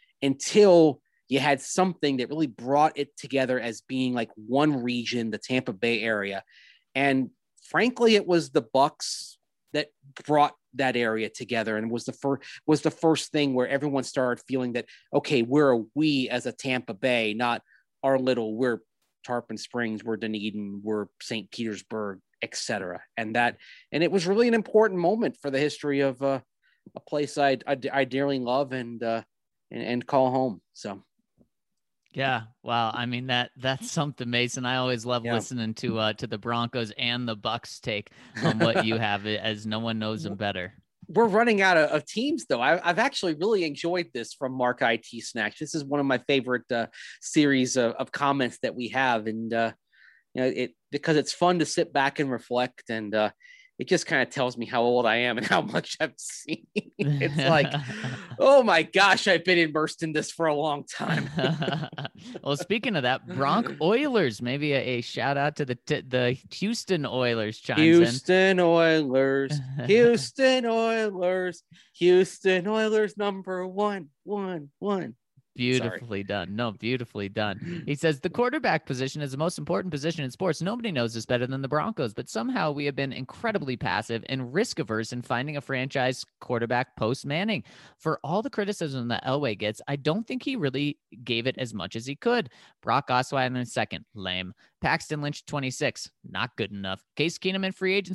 until you had something that really brought it together as being like one region, the Tampa Bay area. And frankly, it was the Bucks that brought that area together, and was the first was the first thing where everyone started feeling that, okay, we're a we as a Tampa Bay, not our little, we're Tarpon Springs, we're Dunedin, we're Saint Petersburg, et cetera. And that, and it was really an important moment for the history of uh, a place I, I I dearly love and uh, and, and call home. So. Yeah. Wow. I mean, that that's something, Mason. I always love Yeah. listening to uh to the Broncos and the Bucks take on what you have, as no one knows them better. We're running out of, of teams, though. I, I've actually really enjoyed this from Mark I T Snacks. This is one of my favorite uh, series of, of comments that we have, and uh, you know, it because it's fun to sit back and reflect, and uh, it just kind of tells me how old I am and how much I've seen. It's like, oh my gosh, I've been immersed in this for a long time. Well, speaking of that, Bronc Oilers, maybe a, a shout out to the t- the Houston Oilers chimes Houston Oilers, Houston Oilers, Houston Oilers, number one, one, one. Beautifully Sorry. done. No, beautifully done. He says the quarterback position is the most important position in sports. Nobody knows this better than the Broncos, but somehow we have been incredibly passive and risk averse in finding a franchise quarterback post Manning. For all the criticism that Elway gets, I don't think he really gave it as much as he could. Brock Osweiler in second, lame. Paxton Lynch twenty-six, not good enough. Case Keenum in free agency,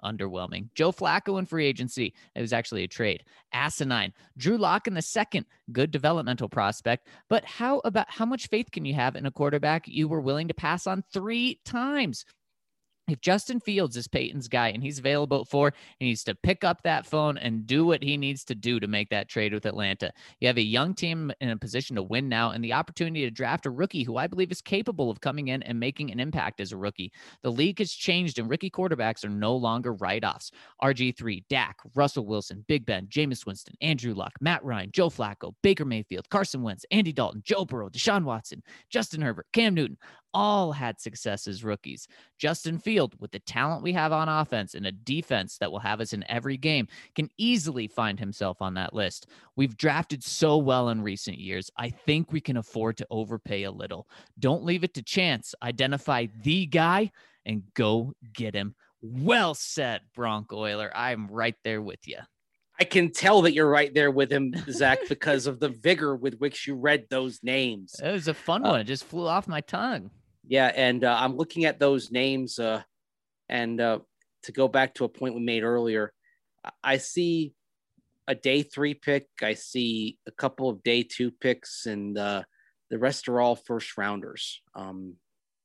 underwhelming. Joe Flacco in free agency. It was actually a trade. Asinine. Drew Lock in the second. Good developmental prospect. But how about how much faith can you have in a quarterback you were willing to pass on three times? If Justin Fields is Peyton's guy and he's available at four, he needs to pick up that phone and do what he needs to do to make that trade with Atlanta. You have a young team in a position to win now and the opportunity to draft a rookie who I believe is capable of coming in and making an impact as a rookie. The league has changed and rookie quarterbacks are no longer write-offs. R G three, Dak, Russell Wilson, Big Ben, Jameis Winston, Andrew Luck, Matt Ryan, Joe Flacco, Baker Mayfield, Carson Wentz, Andy Dalton, Joe Burrow, Deshaun Watson, Justin Herbert, Cam Newton, all had success as rookies. Justin Field, with the talent we have on offense and a defense that will have us in every game, can easily find himself on that list. We've drafted so well in recent years. I think we can afford to overpay a little. Don't leave it to chance. Identify the guy and go get him. Well said, Bronco Oiler. I'm right there with you. I can tell that you're right there with him, Zach, because of the vigor with which you read those names. It was a fun uh, one. It just flew off my tongue. Yeah, and uh, I'm looking at those names, uh, and uh, to go back to a point we made earlier, I see a day three pick. I see a couple of day two picks, and uh, the rest are all first rounders. Um,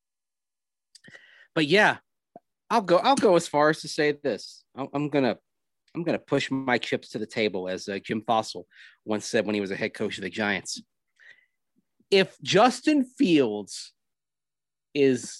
but yeah, I'll go. I'll go as far as to say this. I'm, I'm gonna. I'm gonna push my chips to the table, as uh, Jim Fossil once said when he was a head coach of the Giants. If Justin Fields is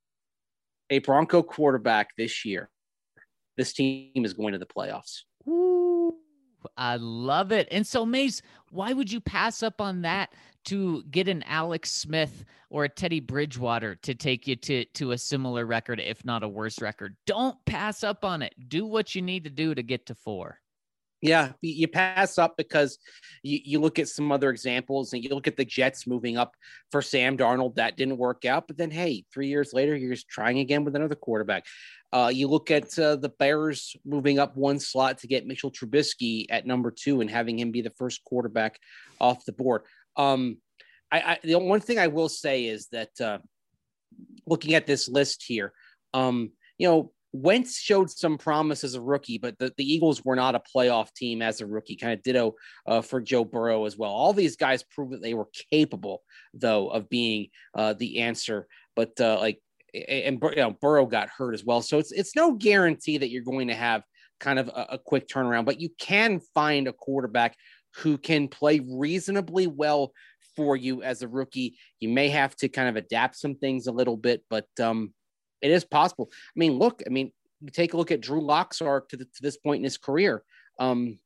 a Bronco quarterback this year, this team is going to the playoffs. Ooh, I love it. And so, Mace, why would you pass up on that to get an Alex Smith or a Teddy Bridgewater to take you to, to a similar record, if not a worse record? Don't pass up on it. Do what you need to do to get to four. Yeah, you pass up because you, you look at some other examples and you look at the Jets moving up for Sam Darnold. That didn't work out. But then, hey, three years later, you're just trying again with another quarterback. Uh, you look at uh, the Bears moving up one slot to get Mitchell Trubisky at number two and having him be the first quarterback off the board. Um, I, I the one thing I will say is that uh, looking at this list here, um, you know, Wentz showed some promise as a rookie, but the, the Eagles were not a playoff team as a rookie, kind of ditto uh, for Joe Burrow as well. All these guys proved that they were capable, though, of being uh, the answer. But uh, like, and you know, Burrow got hurt as well. So it's, it's no guarantee that you're going to have kind of a, a quick turnaround, but you can find a quarterback who can play reasonably well for you as a rookie. You may have to kind of adapt some things a little bit, but um, it is possible. I mean, look, I mean, you take a look at Drew Lock's arc to, the, to this point in his career. Um,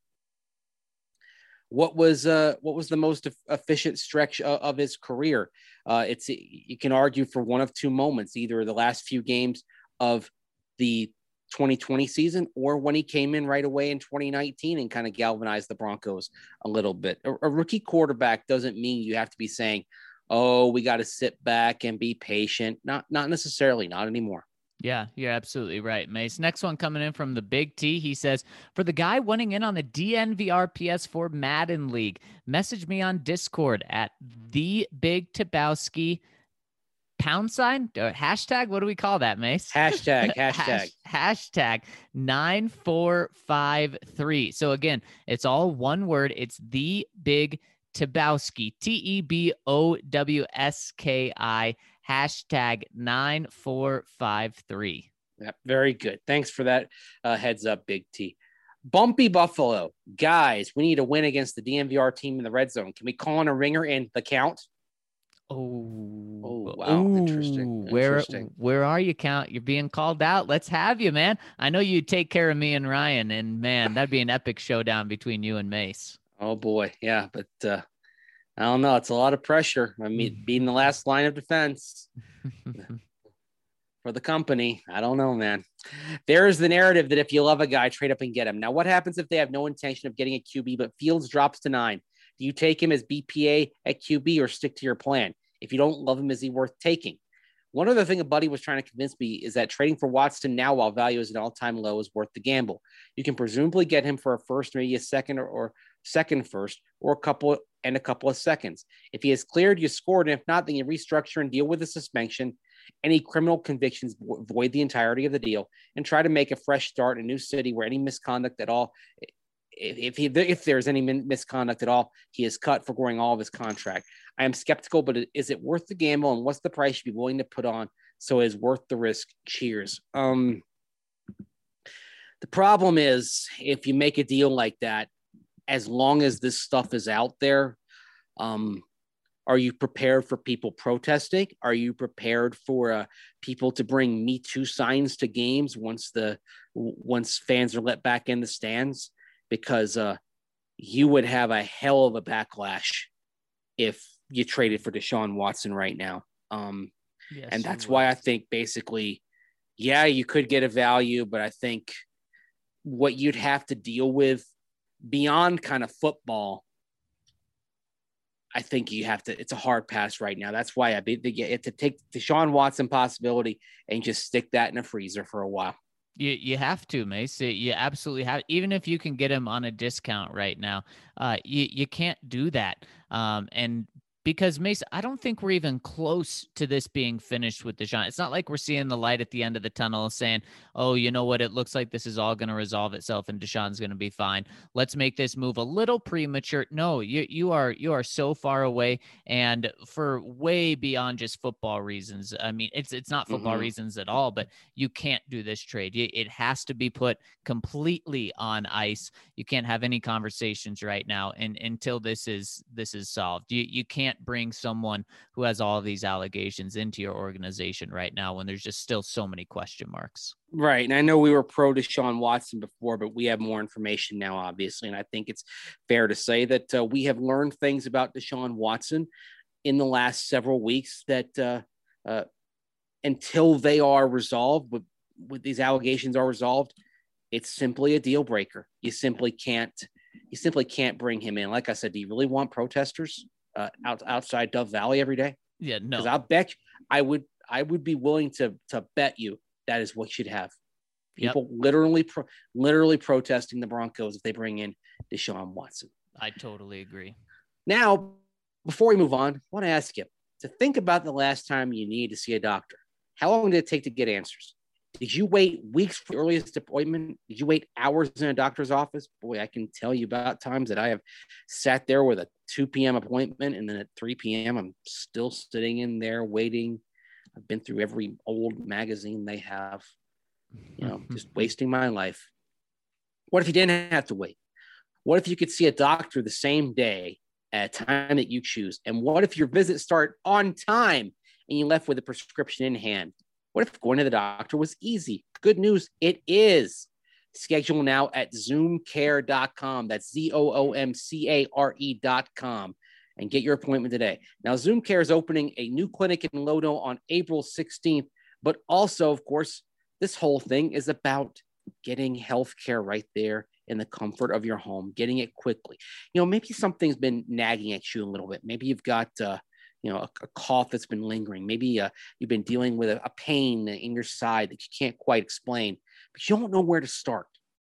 what was uh, what was the most efficient stretch of, of his career? Uh, it's you can argue for one of two moments, either the last few games of the twenty twenty season or when he came in right away in twenty nineteen and kind of galvanized the Broncos a little bit. A, a rookie quarterback doesn't mean you have to be saying, oh, we got to sit back and be patient. Not, not necessarily, not anymore. Yeah, you're absolutely right, Mace. Next one coming in from the Big T. He says, for the guy wanting in on the D N V R P S four Madden League, message me on Discord at the Big Tabowski pound sign or hashtag. What do we call that, Mace? Hashtag, hashtag, Hash, hashtag nine four five three. So again, it's all one word. It's the Big Tabowski, T E B O W S K I, hashtag nine four five three. Yep, very good. Thanks for that uh, heads up, Big T. Bumpy Buffalo. Guys, we need to win against the D N V R team in the red zone. Can we call on a ringer in the count? Oh, oh wow. Ooh, Interesting. Where, Interesting. Where are you, Count? You're being called out. Let's have you, man. I know you take care of me and Ryan, and man, that'd be an epic showdown between you and Mace. Oh boy. Yeah. But uh, I don't know. It's a lot of pressure. I mean, being the last line of defense for the company. I don't know, man. There's the narrative that if you love a guy, trade up and get him. Now, what happens if they have no intention of getting a Q B, but Fields drops to nine? Do you take him as B P A at Q B or stick to your plan? If you don't love him, is he worth taking? One other thing a buddy was trying to convince me is that trading for Watson now while value is an all-time low is worth the gamble. You can presumably get him for a first, maybe a second or, or second first, or a couple and a couple of seconds. If he is cleared, you scored. And if not, then you restructure and deal with the suspension Any criminal convictions void the entirety of the deal and try to make a fresh start in a new city where any misconduct at all, if he, if there's any misconduct at all, he is cut, foregoing all of his contract. I am skeptical, but is it worth the gamble, and what's the price you'd be willing to put on so it is worth the risk? Cheers. Um, the problem is, if you make a deal like that, as long as this stuff is out there, um, are you prepared for people protesting? Are you prepared for uh, people to bring Me Too signs to games once the once fans are let back in the stands? Because uh, you would have a hell of a backlash if you traded for Deshaun Watson right now. Um, yes, and that's why I think basically, yeah, you could get a value, but I think what you'd have to deal with beyond kind of football, I think you have to, it's a hard pass right now. That's why I be to to take Deshaun Watson possibility and just stick that in a freezer for a while. You you have to, Mace. You absolutely have. Even if you can get him on a discount right now, uh, you you can't do that. Um, and because Mace, I don't think we're even close to this being finished with Deshaun. It's not like we're seeing the light at the end of the tunnel saying, oh, you know what? It looks like this is all going to resolve itself and Deshaun's going to be fine. Let's make this move a little premature. No, you you are you are so far away, and for way beyond just football reasons. I mean, it's it's not football mm-hmm. reasons at all, but you can't do this trade. It has to be put completely on ice. You can't have any conversations right now and until this is this is solved. You you can't bring someone who has all of these allegations into your organization right now when there's just still so many question marks. Right. And I know we were pro Deshaun Watson before, but we have more information now, obviously. And I think it's fair to say that uh, we have learned things about Deshaun Watson in the last several weeks that uh, uh, until they are resolved, with, with these allegations are resolved, it's simply a deal breaker. You simply can't, you simply can't bring him in. Like I said, do you really want protesters uh, out outside Dove Valley every day? Yeah, no. Because I'll bet I would, I would be willing to to bet you that is what you'd have. People yep. literally, pro, literally protesting the Broncos if they bring in Deshaun Watson. I totally agree. Now, before we move on, I want to ask you to think about the last time you needed to see a doctor. How long did it take to get answers? Did you wait weeks for the earliest appointment? Did you wait hours in a doctor's office? Boy, I can tell you about times that I have sat there with a two p.m. appointment, and then at three p.m. I'm still sitting in there waiting. I've been through every old magazine they have, you know, just wasting my life. What if you didn't have to wait? What if you could see a doctor the same day at a time that you choose? And what if your visits start on time and you left with a prescription in hand? What if going to the doctor was easy? Good news, it is. Schedule now at zoom care dot com. That's Z O O M C A R E dot com. And get your appointment today. Now, Zoom Care is opening a new clinic in Lodo on April sixteenth, but also, of course, this whole thing is about getting healthcare right there in the comfort of your home, getting it quickly. You know, maybe something's been nagging at you a little bit. Maybe you've got, uh, you know, a, a cough that's been lingering. Maybe uh, you've been dealing with a, a pain in your side that you can't quite explain, but you don't know where to start.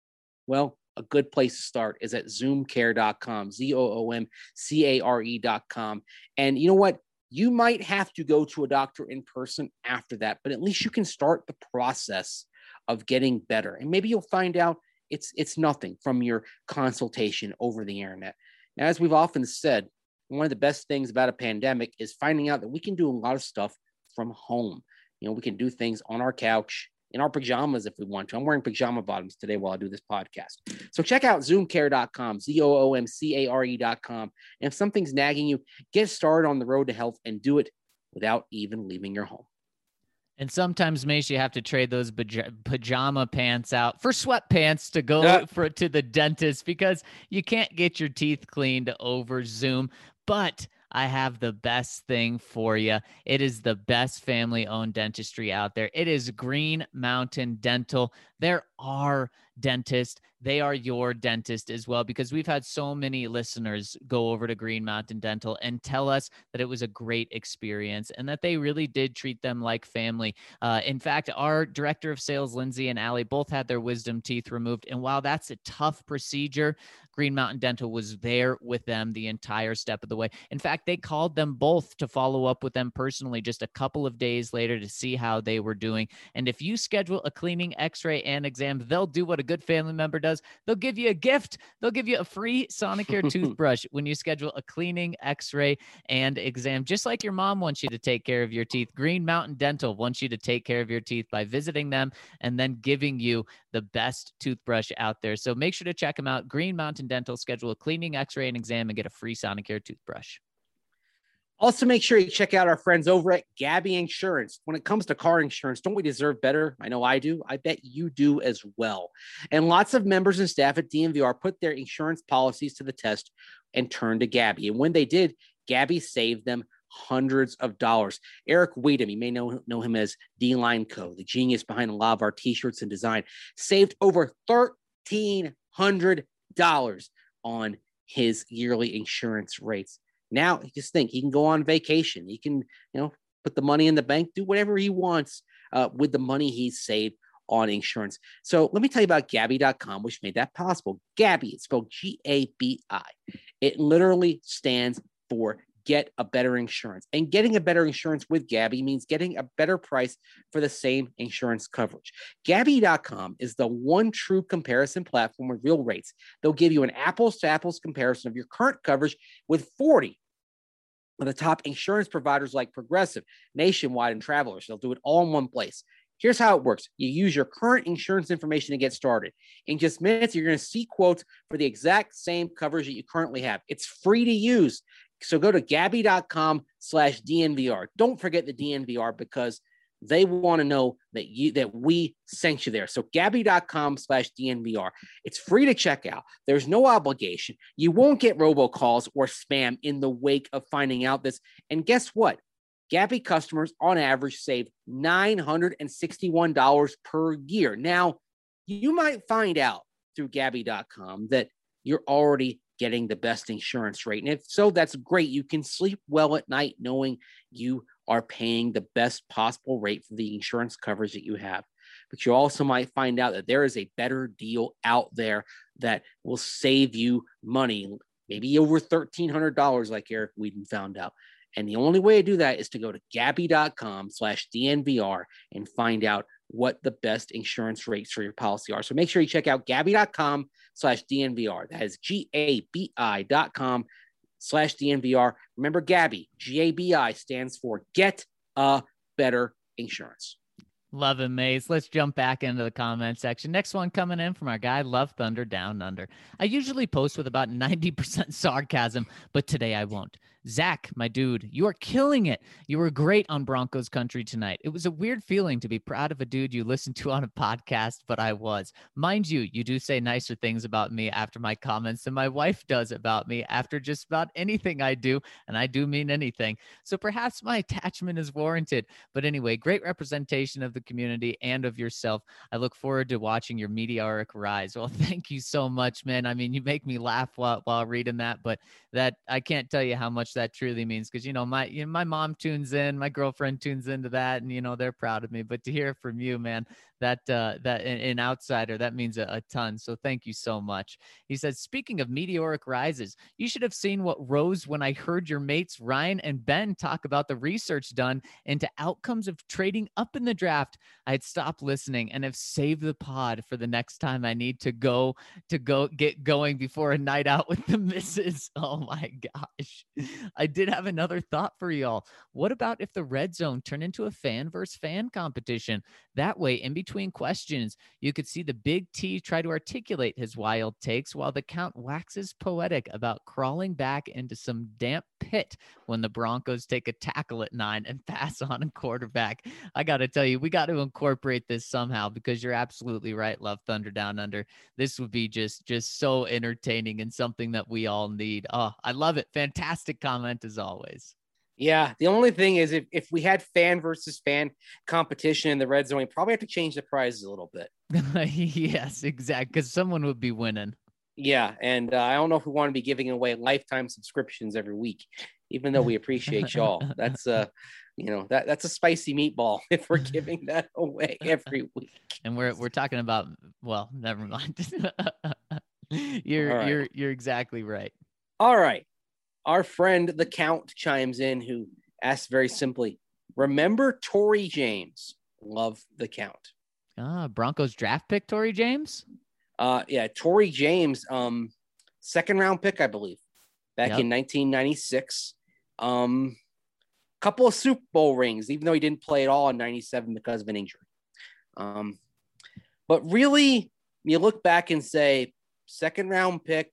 Well, a good place to start is at zoom care dot com, Z O O M C A R E dot com. And you know what? You might have to go to a doctor in person after that, but at least you can start the process of getting better. And maybe you'll find out it's it's nothing from your consultation over the internet. Now, as we've often said, one of the best things about a pandemic is finding out that we can do a lot of stuff from home. You know, we can do things on our couch, in our pajamas if we want to. I'm wearing pajama bottoms today while I do this podcast. So check out zoom care dot com, Z O O M C A R E dot com. And if something's nagging you, get started on the road to health and do it without even leaving your home. And sometimes, Mace, you have to trade those pajama pants out for sweatpants to go yeah. for to the dentist because you can't get your teeth cleaned over Zoom. But I have the best thing for you. It is the best family-owned dentistry out there. It is Green Mountain Dental. They're our dentist. They are your dentist as well, because we've had so many listeners go over to Green Mountain Dental and tell us that it was a great experience and that they really did treat them like family. Uh, in fact, our director of sales, Lindsay and Allie, both had their wisdom teeth removed. And while that's a tough procedure, Green Mountain Dental was there with them the entire step of the way. In fact, they called them both to follow up with them personally just a couple of days later to see how they were doing. And if you schedule a cleaning, x-ray, and exam, they'll do what a good family member does. They'll give you a gift. They'll give you a free Sonicare toothbrush when you schedule a cleaning, x-ray, and exam. Just like your mom wants you to take care of your teeth, Green Mountain Dental wants you to take care of your teeth by visiting them and then giving you the best toothbrush out there. So make sure to check them out. Green Mountain Dental. Schedule a cleaning, x-ray, and exam and get a free Sonicare toothbrush. Also, make sure you check out our friends over at Gabby Insurance. When it comes to car insurance, don't we deserve better? I know I do. I bet you do as well. And lots of members and staff at D N V R put their insurance policies to the test and turned to Gabby. And when they did, Gabby saved them hundreds of dollars. Eric Weedham, you may know, know him as D-Line Co., the genius behind a lot of our t-shirts and design, saved over thirteen hundred dollars on his yearly insurance rates. Now, just think, he can go on vacation. He can, you know, put the money in the bank, do whatever he wants uh, with the money he's saved on insurance. So let me tell you about Gabby dot com, which made that possible. Gabby, it's spelled G A B I. It literally stands for Get a Better Insurance. And getting a better insurance with Gabby means getting a better price for the same insurance coverage. Gabby dot com is the one true comparison platform with real rates. They'll give you an apples-to-apples comparison of your current coverage with forty of the top insurance providers like Progressive, Nationwide, and Travelers. They'll do it all in one place. Here's how it works. You use your current insurance information to get started. In just minutes, you're going to see quotes for the exact same coverage that you currently have. It's free to use. So go to Gabby dot com slash D N V R. Don't forget the D N V R because they want to know that you that we sent you there. So Gabby dot com slash D N V R. It's free to check out. There's no obligation. You won't get robocalls or spam in the wake of finding out this. And guess what? Gabby customers on average save nine hundred sixty-one dollars per year. Now, you might find out through Gabby dot com that you're already getting the best insurance rate. And if so, that's great. You can sleep well at night knowing you are paying the best possible rate for the insurance coverage that you have. But you also might find out that there is a better deal out there that will save you money, maybe over thirteen hundred dollars like Eric Weedham found out. And the only way to do that is to go to Gabby dot com slash D N V R and find out what the best insurance rates for your policy are. So make sure you check out Gabby dot com slash D N V R. That is G A B I dot com slash D N V R. Remember, Gabby, G A B I stands for Get a Better Insurance. Love it, Maze. Let's jump back into the comment section. Next one coming in from our guy, Love Thunder Down Under. I usually post with about ninety percent sarcasm, but today I won't. Zach, my dude, you are killing it. You were great on Broncos Country tonight. It was a weird feeling to be proud of a dude you listened to on a podcast, but I was. Mind you, you do say nicer things about me after my comments than my wife does about me after just about anything I do, and I do mean anything. So perhaps my attachment is warranted. But anyway, great representation of the community and of yourself. I look forward to watching your meteoric rise. Well, thank you so much, man. I mean, you make me laugh while, while reading that, but that I can't tell you how much that truly means, because you know my you know, my mom tunes in, my girlfriend tunes into that, and you know they're proud of me. But to hear from you, man, that uh, that an outsider, that means a, a ton. So thank you so much. He says, speaking of meteoric rises, you should have seen what rose when I heard your mates Ryan and Ben talk about the research done into outcomes of trading up in the draft. I had stopped listening and have saved the pod for the next time I need to go to go get going before a night out with the missus. Oh my gosh. I did have another thought for y'all. What about if the red zone turned into a fan versus fan competition? That way, in between questions, you could see the big T try to articulate his wild takes while the count waxes poetic about crawling back into some damp pit when the Broncos take a tackle at nine and pass on a quarterback. I got to tell you, we got to incorporate this somehow, because you're absolutely right, Love Thunder Down Under. This would be just, just so entertaining and something that we all need. Oh, I love it. Fantastic comment as always. Yeah, the only thing is if, if we had fan versus fan competition in the red zone, we probably have to change the prizes a little bit. Yes, exactly. Because someone would be winning. Yeah, and uh, I don't know if we want to be giving away lifetime subscriptions every week, even though we appreciate y'all. That's uh, you know, that that's a spicy meatball if we're giving that away every week. And we're we're talking about, well, never mind. you're right. you're you're exactly right. All right. Our friend the Count chimes in, who asks very simply, remember Tory James? Love the Count. Ah, Broncos draft pick, Tory James? Uh, yeah, Tory James, um, second round pick, I believe, back Yep. in nineteen ninety-six. Um, couple of Super Bowl rings, even though he didn't play at all in ninety-seven because of an injury. Um, but really, you look back and say, second round pick,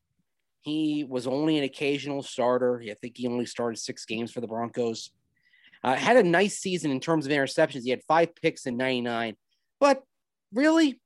he was only an occasional starter. I think he only started six games for the Broncos. Uh, had a nice season in terms of interceptions. He had five picks in ninety-nine, but really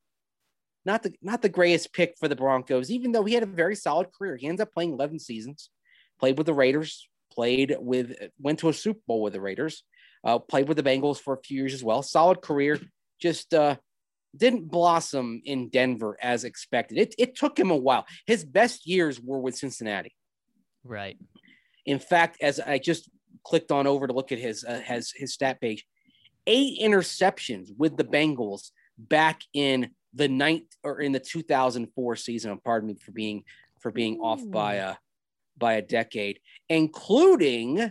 not the not the greatest pick for the Broncos, even though he had a very solid career. He ends up playing eleven seasons, played with the Raiders, played with, went to a Super Bowl with the Raiders, uh, played with the Bengals for a few years as well. Solid career, just uh, didn't blossom in Denver as expected. It, it took him a while. His best years were with Cincinnati. Right. In fact, as I just clicked on over to look at his uh, his, his stat page, eight interceptions with the Bengals back in the ninth or in the two thousand four season. Pardon me for being for being Ooh. off by a by a decade, including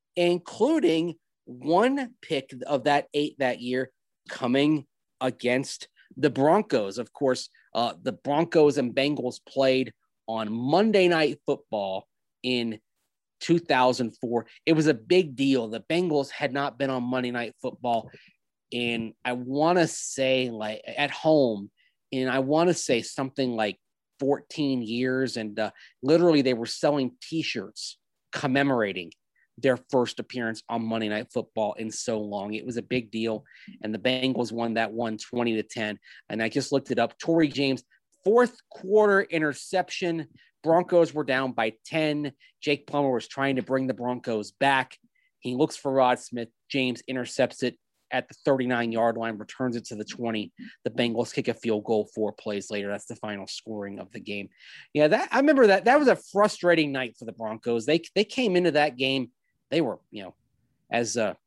including one pick of that eight that year coming against the Broncos. Of course, uh, the Broncos and Bengals played on Monday Night Football in two thousand four. It was a big deal. The Bengals had not been on Monday Night Football in, I want to say, like at home, and I want to say something like fourteen years. And uh, literally they were selling T-shirts commemorating their first appearance on Monday Night Football in so long. It was a big deal. And the Bengals won that one twenty to ten. And I just looked it up. Tory James, fourth quarter interception. Broncos were down by ten. Jake Plummer was trying to bring the Broncos back. He looks for Rod Smith. James intercepts it at the thirty-nine yard line, returns it to the twenty. The Bengals kick a field goal four plays later. That's the final scoring of the game. Yeah, that I remember that. That was a frustrating night for the Broncos. They they came into that game. They were, you know, as uh,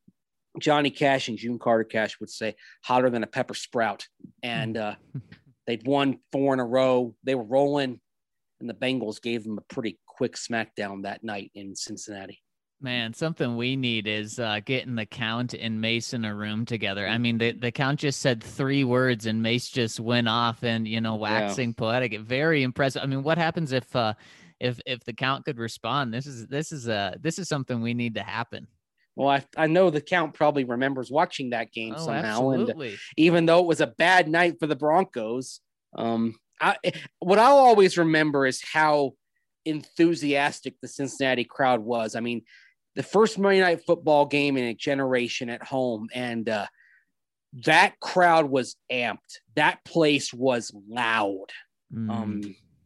Johnny Cash and June Carter Cash would say, hotter than a pepper sprout. And uh, they'd won four in a row. They were rolling, and the Bengals gave them a pretty quick smackdown that night in Cincinnati. Man, something we need is uh, getting the Count and Mace in a room together. I mean, the, the Count just said three words and Mace just went off and, you know, waxing yeah. poetic. Very impressive. I mean, what happens if uh, if if the Count could respond? This is this is uh, this is something we need to happen. Well, I, I know the Count probably remembers watching that game oh, somehow. Absolutely. And even though it was a bad night for the Broncos, um, I, what I'll always remember is how enthusiastic the Cincinnati crowd was. I mean, the first Monday Night Football game in a generation at home, and uh, that crowd was amped. That place was loud. Mm. Um,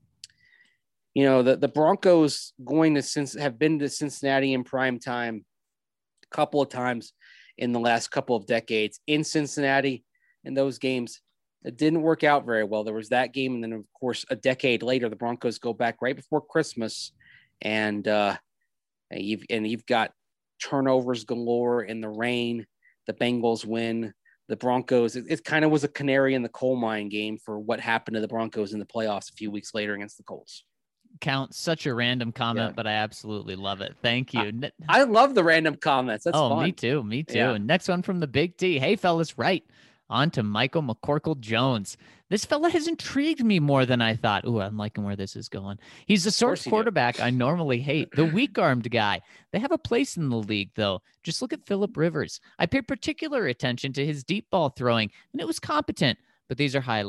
you know, the, the Broncos going to since have been to Cincinnati in prime time a couple of times in the last couple of decades in Cincinnati. In those games, it didn't work out very well. There was that game, and then of course a decade later, the Broncos go back right before Christmas, and uh, and you've and you've got turnovers galore in the rain. The Bengals win. The Broncos, it, it kind of was a canary in the coal mine game for what happened to the Broncos in the playoffs a few weeks later against the Colts. Count, such a random comment, yeah. but I absolutely love it. Thank you. I, I love the random comments. That's oh, fun. me too. Me too. Yeah. And next one from the Big T. Hey, fellas, right. On to Michael McCorkle-Jones. This fella has intrigued me more than I thought. Ooh, I'm liking where this is going. He's the sort of quarterback I normally hate, the weak-armed guy. They have a place in the league, though. Just look at Phillip Rivers. I paid particular attention to his deep ball throwing, and it was competent. But these are highlights.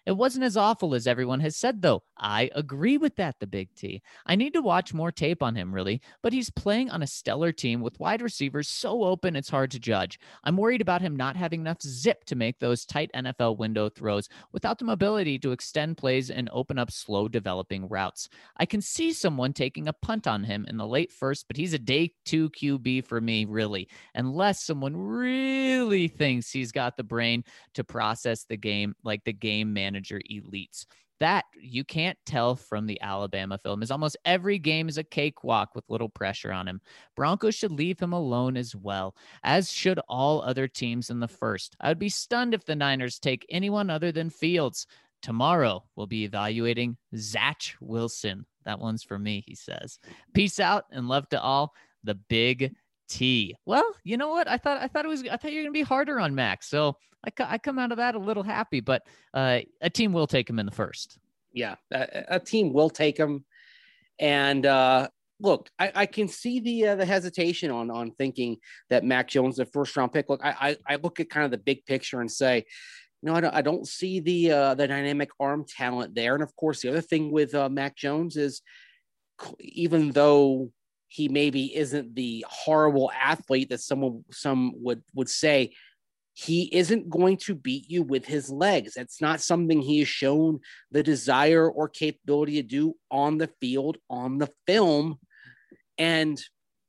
It wasn't as awful as everyone has said, though. I agree with that, the Big T. I need to watch more tape on him, really, but he's playing on a stellar team with wide receivers so open it's hard to judge. I'm worried about him not having enough zip to make those tight N F L window throws without the mobility to extend plays and open up slow developing routes. I can see someone taking a punt on him in the late first, but he's a day two Q B for me, really, unless someone really thinks he's got the brain to process the game like the game manager elites. That you can't tell from the Alabama film, is almost every game is a cakewalk with little pressure on him. Broncos should leave him alone as well, as should all other teams in the first. I would be stunned if the Niners take anyone other than Fields. Tomorrow, we'll be evaluating Zach Wilson. That one's for me, he says. Peace out and love to all. The Big T. Well, you know what? I thought I thought it was I thought you were gonna be harder on Max. So I, I come out of that a little happy, but uh, a team will take him in the first. Yeah, a, a team will take him. And uh, look, I, I can see the uh, the hesitation on on thinking that Mac Jones is a first round pick. Look, I, I I look at kind of the big picture and say, no, I don't, I don't see the uh, the dynamic arm talent there. And of course, the other thing with uh, Mac Jones is, even though he maybe isn't the horrible athlete that someone some would would say, he isn't going to beat you with his legs. That's not something he has shown the desire or capability to do on the field, on the film. And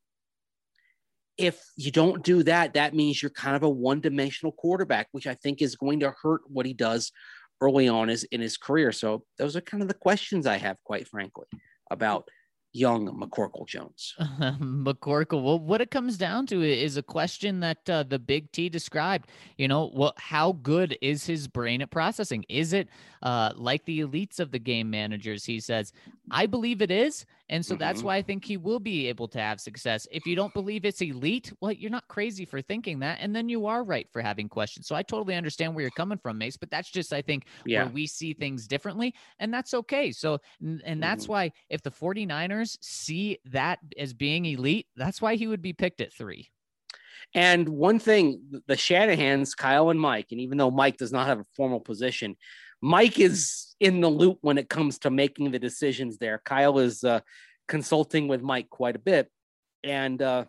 if you don't do that, that means you're kind of a one-dimensional quarterback, which I think is going to hurt what he does early on his, in his career. So those are kind of the questions I have, quite frankly, about young McCorkle Jones. Uh, McCorkle. Well, what it comes down to is a question that uh, the Big T described. You know, well, how good is his brain at processing? Is it uh, like the elites of the game managers? He says, I believe it is. And so mm-hmm. that's why I think he will be able to have success. If you don't believe it's elite, well, you're not crazy for thinking that. And then you are right for having questions. So I totally understand where you're coming from, Mace, but that's just, I think, yeah. where we see things differently. And that's okay. So, and, and that's mm-hmm. why if the 49ers see that as being elite, that's why he would be picked at three. And one thing, the Shanahans, Kyle and Mike, and even though Mike does not have a formal position, Mike is in the loop when it comes to making the decisions there. Kyle is uh, consulting with Mike quite a bit. And uh,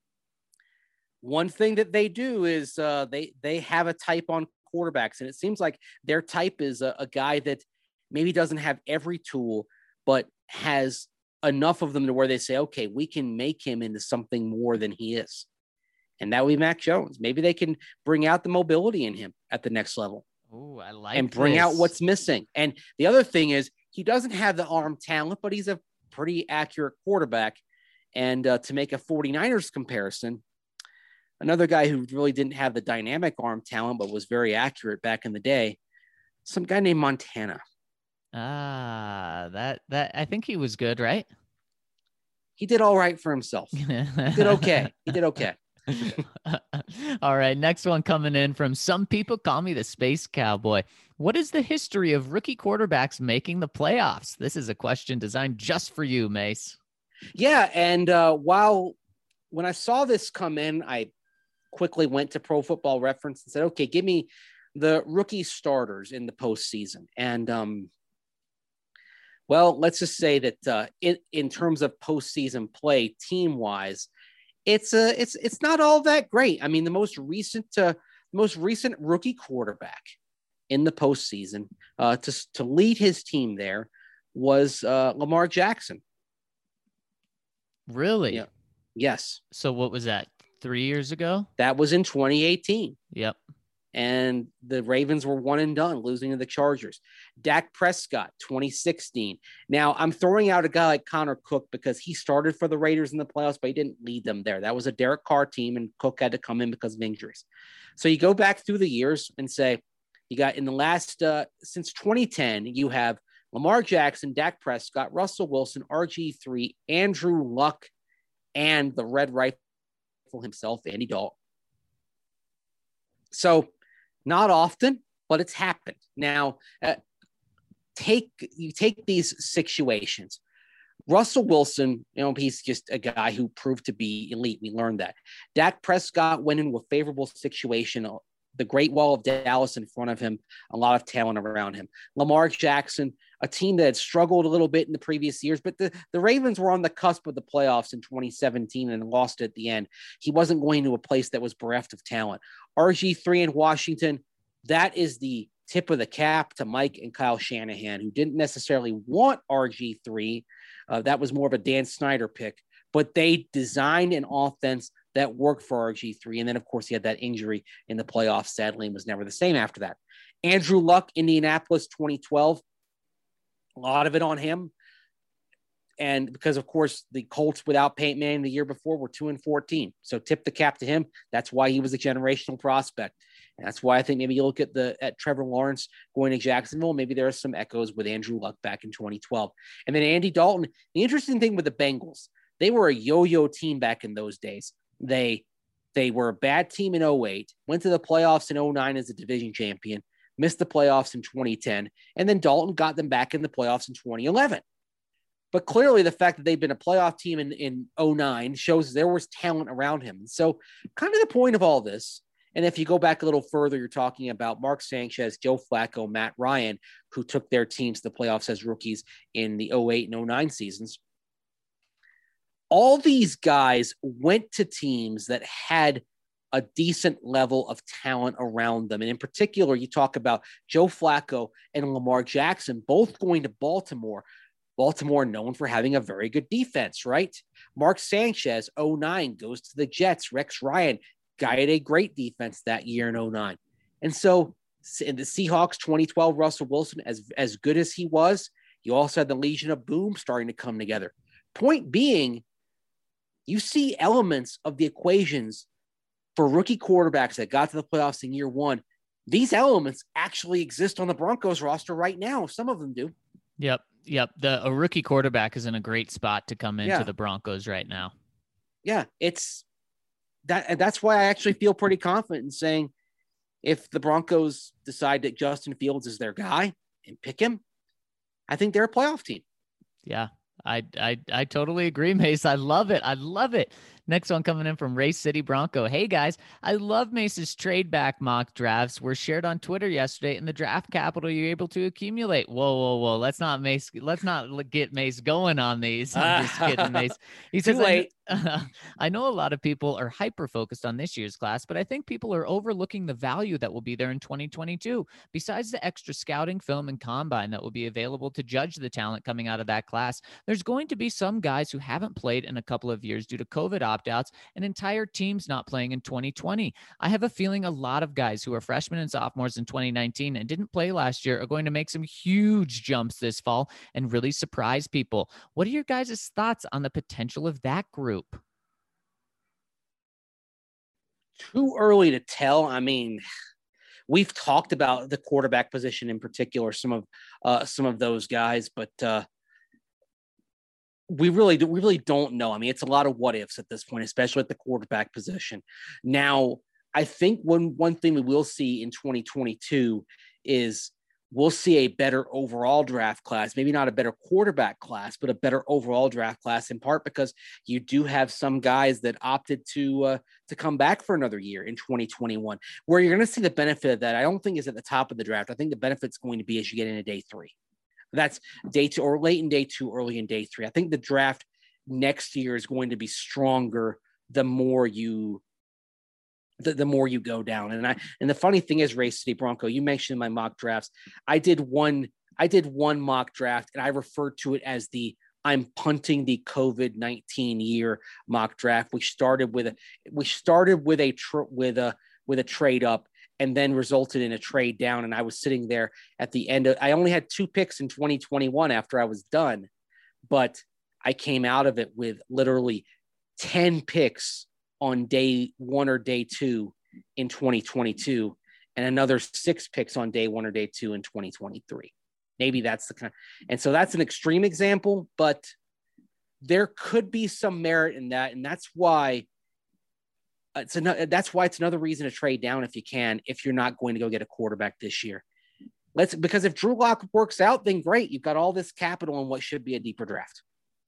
one thing that they do is uh, they, they have a type on quarterbacks. And it seems like their type is a, a guy that maybe doesn't have every tool, but has enough of them to where they say, okay, we can make him into something more than he is. And that would be Mac Jones. Maybe they can bring out the mobility in him at the next level. Oh, I like and bring this. out what's missing. And the other thing is he doesn't have the arm talent, but he's a pretty accurate quarterback. And uh, to make a 49ers comparison, another guy who really didn't have the dynamic arm talent, but was very accurate back in the day, some guy named Montana. Ah, that, that, I think he was good, right? He did all right for himself. He did okay. He did okay. All right, next one coming in from some people call me the Space Cowboy. What is the history of rookie quarterbacks making the playoffs? This is a question designed just for you, Mace. Yeah, and uh, while when I saw this come in, I quickly went to Pro Football Reference and said, okay, give me the rookie starters in the postseason. And, um, well, let's just say that uh, in, in terms of postseason play, team-wise, It's a, it's, it's not all that great. I mean, the most recent, uh, most recent rookie quarterback in the postseason uh, to to lead his team there was uh, Lamar Jackson. Really? Yeah. Yes. So what was that? Three years ago? That was in twenty eighteen. Yep. And the Ravens were one and done, losing to the Chargers. Dak Prescott, twenty sixteen. Now, I'm throwing out a guy like Connor Cook because he started for the Raiders in the playoffs, but he didn't lead them there. That was a Derek Carr team, and Cook had to come in because of injuries. So you go back through the years and say, you got in the last, uh, since twenty ten, you have Lamar Jackson, Dak Prescott, Russell Wilson, R G three, Andrew Luck, and the Red Rifle himself, Andy Dalton. So, not often, but it's happened. Now, uh, take you take these situations. Russell Wilson, you know, he's just a guy who proved to be elite. We learned that. Dak Prescott went into a favorable situation the Great Wall of Dallas in front of him, a lot of talent around him. Lamar Jackson, a team that had struggled a little bit in the previous years, but the, the Ravens were on the cusp of the playoffs in twenty seventeen and lost at the end. He wasn't going to a place that was bereft of talent. R G three in Washington, that is the tip of the cap to Mike and Kyle Shanahan, who didn't necessarily want R G three. Uh, that was more of a Dan Snyder pick, but they designed an offense that worked for R G three. And then, of course, he had that injury in the playoffs, sadly, and was never the same after that. Andrew Luck, Indianapolis, twenty twelve. A lot of it on him. And because, of course, the Colts without Peyton Manning the year before were two and fourteen. So tip the cap to him. That's why he was a generational prospect. And that's why I think maybe you look at the at Trevor Lawrence going to Jacksonville. Maybe there are some echoes with Andrew Luck back in twenty twelve. And then Andy Dalton. The interesting thing with the Bengals, they were a yo-yo team back in those days. They they were a bad team in oh eight, went to the playoffs in oh nine as a division champion, missed the playoffs in twenty ten, and then Dalton got them back in the playoffs in twenty eleven. But clearly the fact that they've been a playoff team in, in oh nine shows there was talent around him. And so kind of the point of all this, and if you go back a little further, you're talking about Mark Sanchez, Joe Flacco, Matt Ryan, who took their teams to the playoffs as rookies in the oh eight and oh nine seasons. All these guys went to teams that had a decent level of talent around them. And in particular, you talk about Joe Flacco and Lamar Jackson, both going to Baltimore. Baltimore known for having a very good defense, right? Mark Sanchez, oh nine, goes to the Jets. Rex Ryan guided a great defense that year in oh nine. And so in the Seahawks, twenty twelve, Russell Wilson, as, as good as he was, you also had the Legion of Boom starting to come together. Point being, you see elements of the equations for rookie quarterbacks that got to the playoffs in year one. These elements actually exist on the Broncos roster right now. Some of them do. Yep. Yep. The a rookie quarterback is in a great spot to come into Yeah. the Broncos right now. Yeah, it's that. That's why I actually feel pretty confident in saying if the Broncos decide that Justin Fields is their guy and pick him, I think they're a playoff team. Yeah. I, I I totally agree, Mace. I love it. I love it. Next one coming in from Race City Bronco. Hey, guys, I love Mace's trade back mock drafts were shared on Twitter yesterday, and the draft capital you're able to accumulate. Whoa, whoa, whoa. Let's not Mace. Let's not get Mace going on these. I'm just kidding, Mace. He says, Too late. I, I know a lot of people are hyper-focused on this year's class, but I think people are overlooking the value that will be there in twenty twenty-two. Besides the extra scouting, film, and combine that will be available to judge the talent coming out of that class, there's going to be some guys who haven't played in a couple of years due to COVID opt-outs and entire teams not playing in twenty twenty. I have a feeling a lot of guys who are freshmen and sophomores in twenty nineteen and didn't play last year are going to make some huge jumps this fall and really surprise people. What are your guys' thoughts on the potential of that group? Too early to tell. I mean, we've talked about the quarterback position in particular, some of uh, some of those guys, but uh, we really do, we really don't know. I mean, it's a lot of what ifs at this point, especially at the quarterback position. Now, I think one one thing we will see in twenty twenty-two is we'll see a better overall draft class, maybe not a better quarterback class, but a better overall draft class, in part because you do have some guys that opted to uh, to come back for another year in twenty twenty-one. Where you're going to see the benefit of that, I don't think is at the top of the draft. I think the benefit's going to be as you get into day three. That's day two or late in day two, early in day three. I think the draft next year is going to be stronger the more you The, the more you go down. And I, and the funny thing is, Race City Bronco, you mentioned my mock drafts. I did one, I did one mock draft and I referred to it as the, I'm punting the COVID nineteen year mock draft. We started with a, we started with a, tr- with a, with a trade up and then resulted in a trade down. And I was sitting there at the end of, I only had two picks in twenty twenty-one after I was done, but I came out of it with literally ten picks on day one or day two in twenty twenty-two and another six picks on day one or day two in twenty twenty-three. Maybe that's the kind. And so that's an extreme example, but there could be some merit in that. And that's why it's another, that's why it's another reason to trade down if you can, if you're not going to go get a quarterback this year. Let's, because if Drew Lock works out, then great. You've got all this capital in what should be a deeper draft.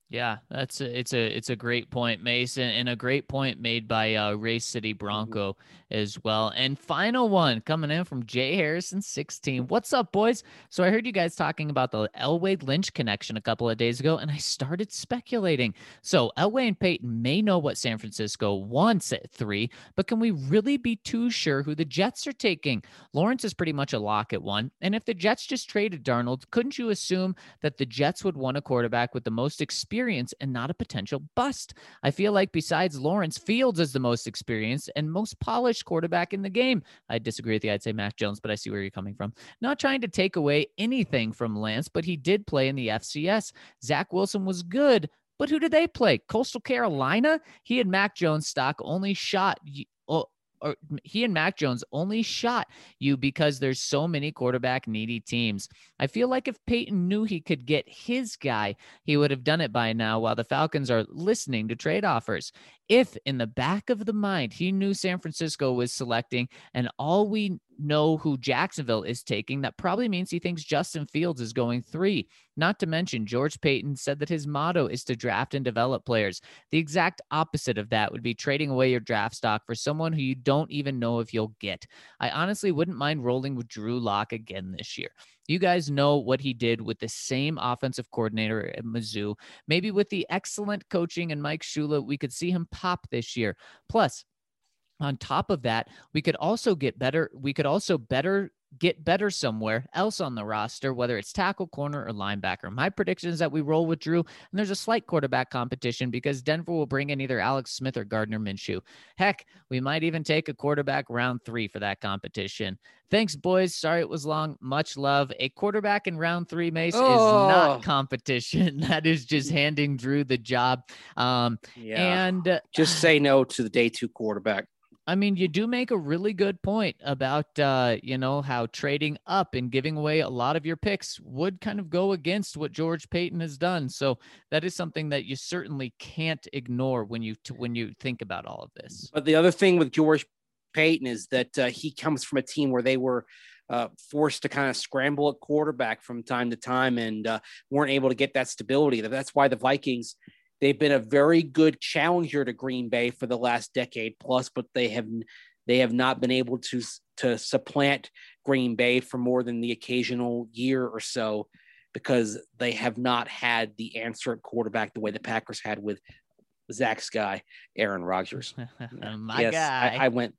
Yeah, that's a, it's a it's a great point, Mason, and a great point made by uh, Race City Bronco mm-hmm. as well. And final one coming in from Jay Harrison sixteen. What's up, boys? So I heard you guys talking about the Elway Lynch connection a couple of days ago, and I started speculating. So Elway and Peyton may know what San Francisco wants at three, but can we really be too sure who the Jets are taking? Lawrence is pretty much a lock at one, and if the Jets just traded Darnold, couldn't you assume that the Jets would want a quarterback with the most experience and not a potential bust? I feel like besides Lawrence, Fields is the most experienced and most polished quarterback in the game. I disagree with you. I'd say Mac Jones, but I see where you're coming from. Not trying to take away anything from Lance, but he did play in the F C S. Zach Wilson was good, but who did they play? Coastal Carolina? He and Mac Jones stock only shot oh, or he and Mac Jones only shot you because there's so many quarterback needy teams. I feel like if Peyton knew he could get his guy, he would have done it by now while the Falcons are listening to trade offers. If in the back of the mind, he knew San Francisco was selecting and all we know who Jacksonville is taking, that probably means he thinks Justin Fields is going three. Not to mention, George Paton said that his motto is to draft and develop players. The exact opposite of that would be trading away your draft stock for someone who you don't even know if you'll get. I honestly wouldn't mind rolling with Drew Lock again this year. You guys know what he did with the same offensive coordinator at Mizzou. Maybe with the excellent coaching and Mike Shula, we could see him pop this year. Plus, on top of that, we could also get better. We could also better get better somewhere else on the roster, whether it's tackle, corner, or linebacker. My prediction is that we roll with Drew, and there's a slight quarterback competition because Denver will bring in either Alex Smith or Gardner Minshew. Heck, we might even take a quarterback round three for that competition. Thanks, boys. Sorry it was long. Much love. A quarterback in round three, Mace, oh. is not competition. That is just handing Drew the job. Um, yeah. And uh, just say no to the day two quarterback. I mean, you do make a really good point about, uh, you know, how trading up and giving away a lot of your picks would kind of go against what George Paton has done. So that is something that you certainly can't ignore when you t- when you think about all of this. But the other thing with George Paton is that uh, he comes from a team where they were uh, forced to kind of scramble at quarterback from time to time and uh, weren't able to get that stability. That's why the Vikings – they've been a very good challenger to Green Bay for the last decade plus, but they have they have not been able to to supplant Green Bay for more than the occasional year or so because they have not had the answer at quarterback the way the Packers had with Zach's guy, Aaron Rodgers. My yes, guy. I, I went.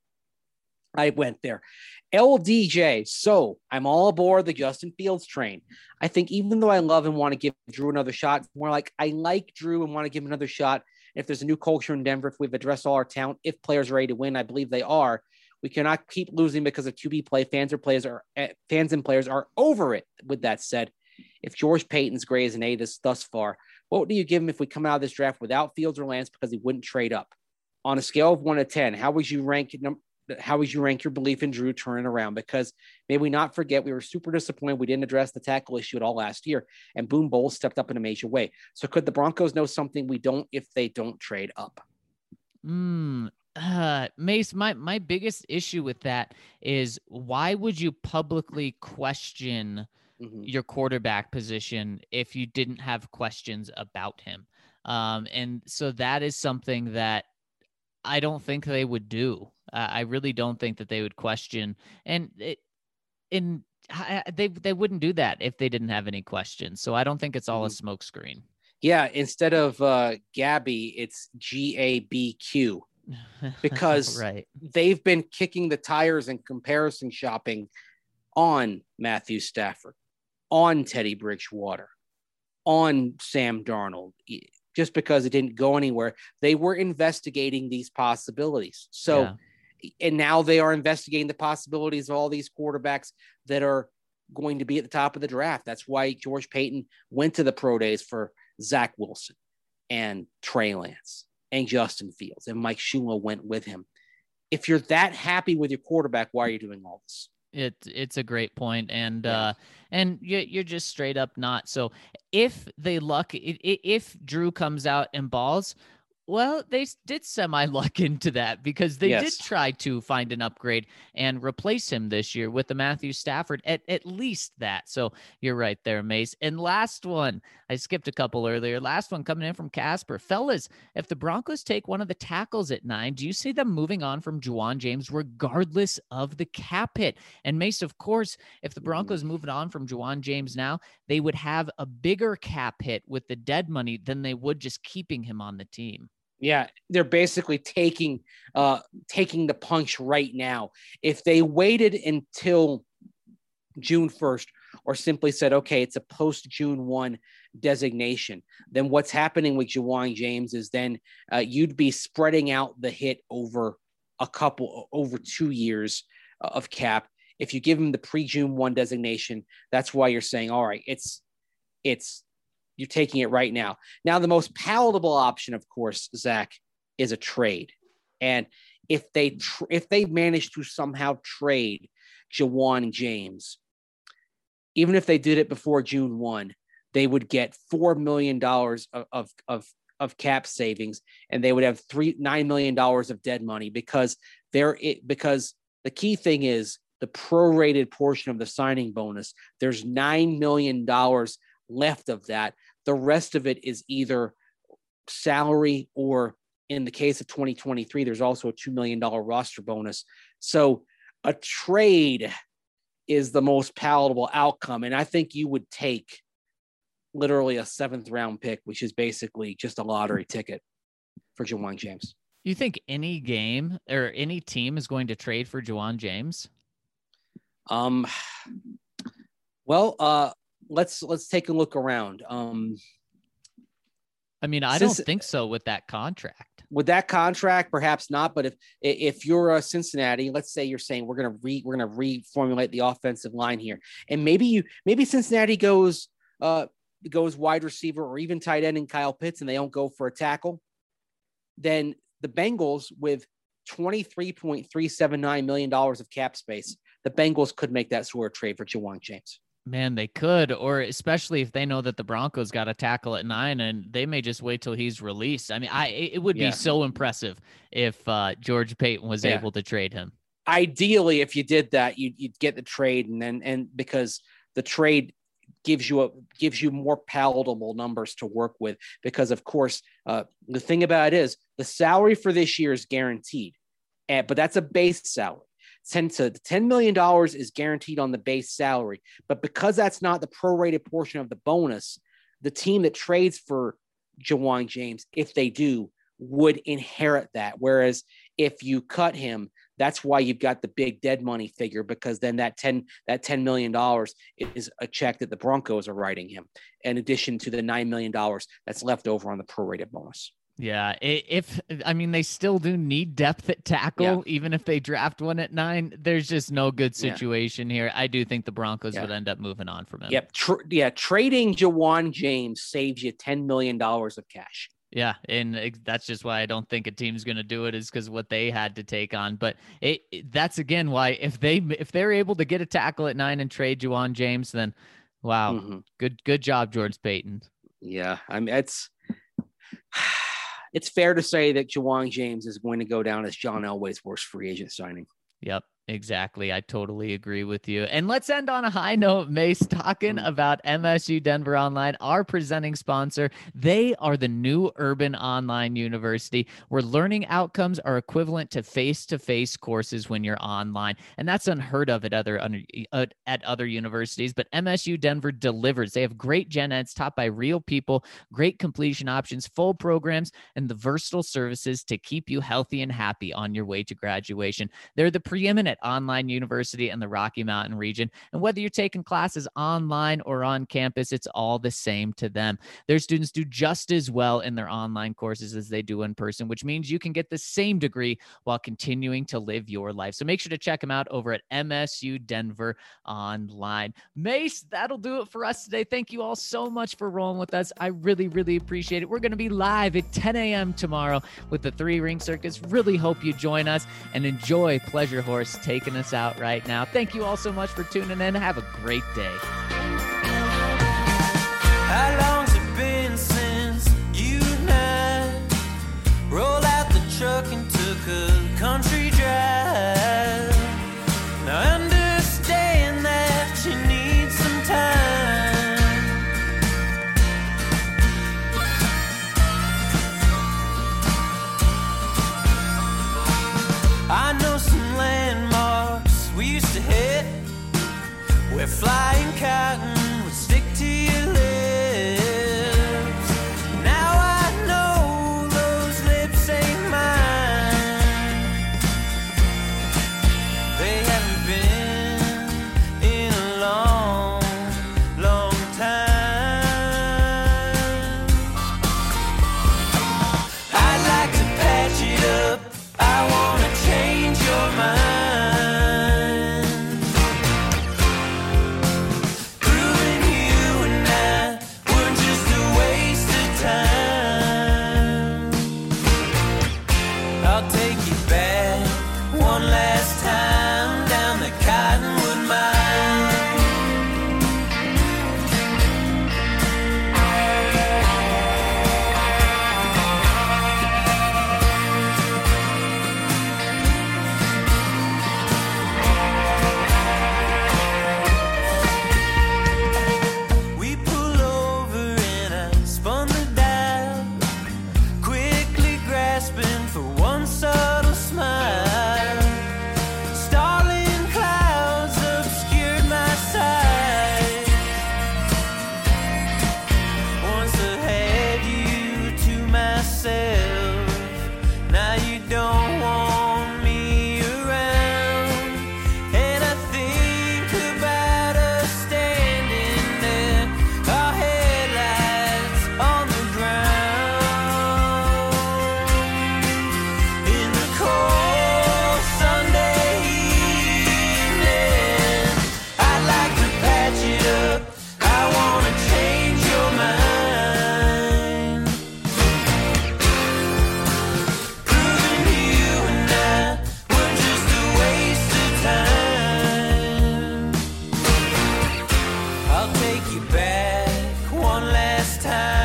I went there. L D J. So I'm all aboard the Justin Fields train. I think even though I love and want to give Drew another shot, more like I like Drew and want to give him another shot. If there's a new culture in Denver, if we've addressed all our talent, if players are ready to win, I believe they are. We cannot keep losing because of Q B play. Fans or players are fans and players are over it. With that said, if George Paton's grade is an A this thus far, what do you give him if we come out of this draft without Fields or Lance because he wouldn't trade up? On a scale of one to ten, how would you rank number? How would you rank your belief in Drew turning around? Because may we not forget, we were super disappointed. We didn't address the tackle issue at all last year, and Boone Bowles stepped up in a major way. So could the Broncos know something we don't if they don't trade up? Mm, uh, Mace, my, my biggest issue with that is why would you publicly question mm-hmm. your quarterback position if you didn't have questions about him? Um, and so that is something that I don't think they would do. Uh, I really don't think that they would question, and it, in I, they they wouldn't do that if they didn't have any questions. So I don't think it's all mm-hmm. a smokescreen. Yeah, instead of uh, Gabby, it's G A B Q because right. they've been kicking the tires and comparison shopping on Matthew Stafford, on Teddy Bridgewater, on Sam Darnold. Just because it didn't go anywhere, they were investigating these possibilities. So, yeah. and now they are investigating the possibilities of all these quarterbacks that are going to be at the top of the draft. That's why George Paton went to the pro days for Zach Wilson and Trey Lance and Justin Fields, and Mike Shula went with him. If you're that happy with your quarterback, why are you doing all this? It it's a great point, and yeah. uh, and you, you're just straight up not. So if they luck, if Drew comes out and balls, Well, they s- did semi-luck into that because they Yes. did try to find an upgrade and replace him this year with the Matthew Stafford, at, at least that. So you're right there, Mace. And last one, I skipped a couple earlier. Last one coming in from Casper. Fellas, if the Broncos take one of the tackles at nine, do you see them moving on from Juwan James regardless of the cap hit? And Mace, of course, if the Broncos moving on from Juwan James now, they would have a bigger cap hit with the dead money than they would just keeping him on the team. Yeah, they're basically taking uh, taking the punch right now. If they waited until June first or simply said, okay, it's a post-June first designation, then what's happening with Juwan James is then uh, you'd be spreading out the hit over a couple, over two years of cap. If you give him the pre-June first designation, that's why you're saying, all right, it's it's you're taking it right now. Now, the most palatable option, of course, Zach, is a trade. And if they tr- if they manage to somehow trade Juwan James, even if they did it before June first, they would get four million dollars of, of, of, of cap savings, and they would have three nine million dollars of dead money because they're it, because the key thing is the prorated portion of the signing bonus. There's nine million dollars left of that. The rest of it is either salary or, in the case of twenty twenty-three, there's also a two million dollars roster bonus. So a trade is the most palatable outcome. And I think you would take literally a seventh round pick, which is basically just a lottery ticket for Juwan James. You think any game or any team is going to trade for Juwan James? Um, well, uh, let's, let's take a look around. Um, I mean, I Since- don't think so with that contract. With that contract, perhaps not. But if if you're a Cincinnati, let's say you're saying we're gonna re we're gonna reformulate the offensive line here, and maybe you maybe Cincinnati goes uh goes wide receiver or even tight end in Kyle Pitts, and they don't go for a tackle, then the Bengals with twenty-three point three seven nine million dollars of cap space, the Bengals could make that sort of trade for Juwan James. Man, they could, or especially if they know that the Broncos got a tackle at nine and they may just wait till he's released. I mean, I it would Yeah. be so impressive if uh, George Payton was Yeah. able to trade him. Ideally, if you did that, you'd, you'd get the trade, and then and because the trade gives you a gives you more palatable numbers to work with. Because of course, uh, the thing about it is the salary for this year is guaranteed, and, but that's a base salary. ten to ten million dollars is guaranteed on the base salary, but because that's not the prorated portion of the bonus, the team that trades for Juwan James, if they do, would inherit that. Whereas if you cut him, that's why you've got the big dead money figure, because then that ten that ten million dollars is a check that the Broncos are writing him, in addition to the nine million dollars that's left over on the prorated bonus. Yeah, i- if I mean they still do need depth at tackle, Yeah. even if they draft one at nine. There's just no good Yeah. situation here. I do think the Broncos Yeah. would end up moving on from him. Yep. Tr- yeah. Trading Juwan James saves you ten million dollars of cash. Yeah, and ex- that's just why I don't think a team's going to do it, is because what they had to take on. But it, it- that's again why if they if they're able to get a tackle at nine and trade Juwan James, then wow, Mhm. good good job, George Payton. Yeah. I mean, it's, it's fair to say that Juwan James is going to go down as John Elway's worst free agent signing. Yep, exactly. I totally agree with you. And let's end on a high note, Mace, talking Mm. about M S U Denver Online, our presenting sponsor. They are the new urban online university where learning outcomes are equivalent to face-to-face courses when you're online. And that's unheard of at other uh, at other universities, but M S U Denver delivers. They have great gen eds taught by real people, great completion options, full programs, and the versatile services to keep you healthy and happy on your way to graduation. They're the preeminent online university in the Rocky Mountain region. And whether you're taking classes online or on campus, it's all the same to them. Their students do just as well in their online courses as they do in person, which means you can get the same degree while continuing to live your life. So make sure to check them out over at M S U Denver Online. Mace, that'll do it for us today. Thank you all so much for rolling with us. I really, really appreciate it. We're going to be live at ten a.m. tomorrow with the Three Ring Circus. Really hope you join us and enjoy Pleasure Horse taking us out right now. Thank you all so much for tuning in. Have a great day. How long's it been since you and I truck and took a country drive. Now I understand that you need some time. I know some landmarks we used to hit, where flying cotton would stick to your lips. Now I know those lips ain't mine. They haven't been in a long, long time. I'd like to patch it up. I wanna change your mind. Proving you and I weren't just a waste of time. I'll take you back one last time down the Cottonwood Mine. We pull over and I spun the dial, quickly grasping for one subtle smile. Starling clouds obscured my sight. Once I had you to myself, now you don't want me around. And I think about us standing there, our headlights on the ground. In the cold Sunday evening, I'd like to patch it up. I wanna change your mind. Proving you and I were just a waste of time. I'll take you back one last time.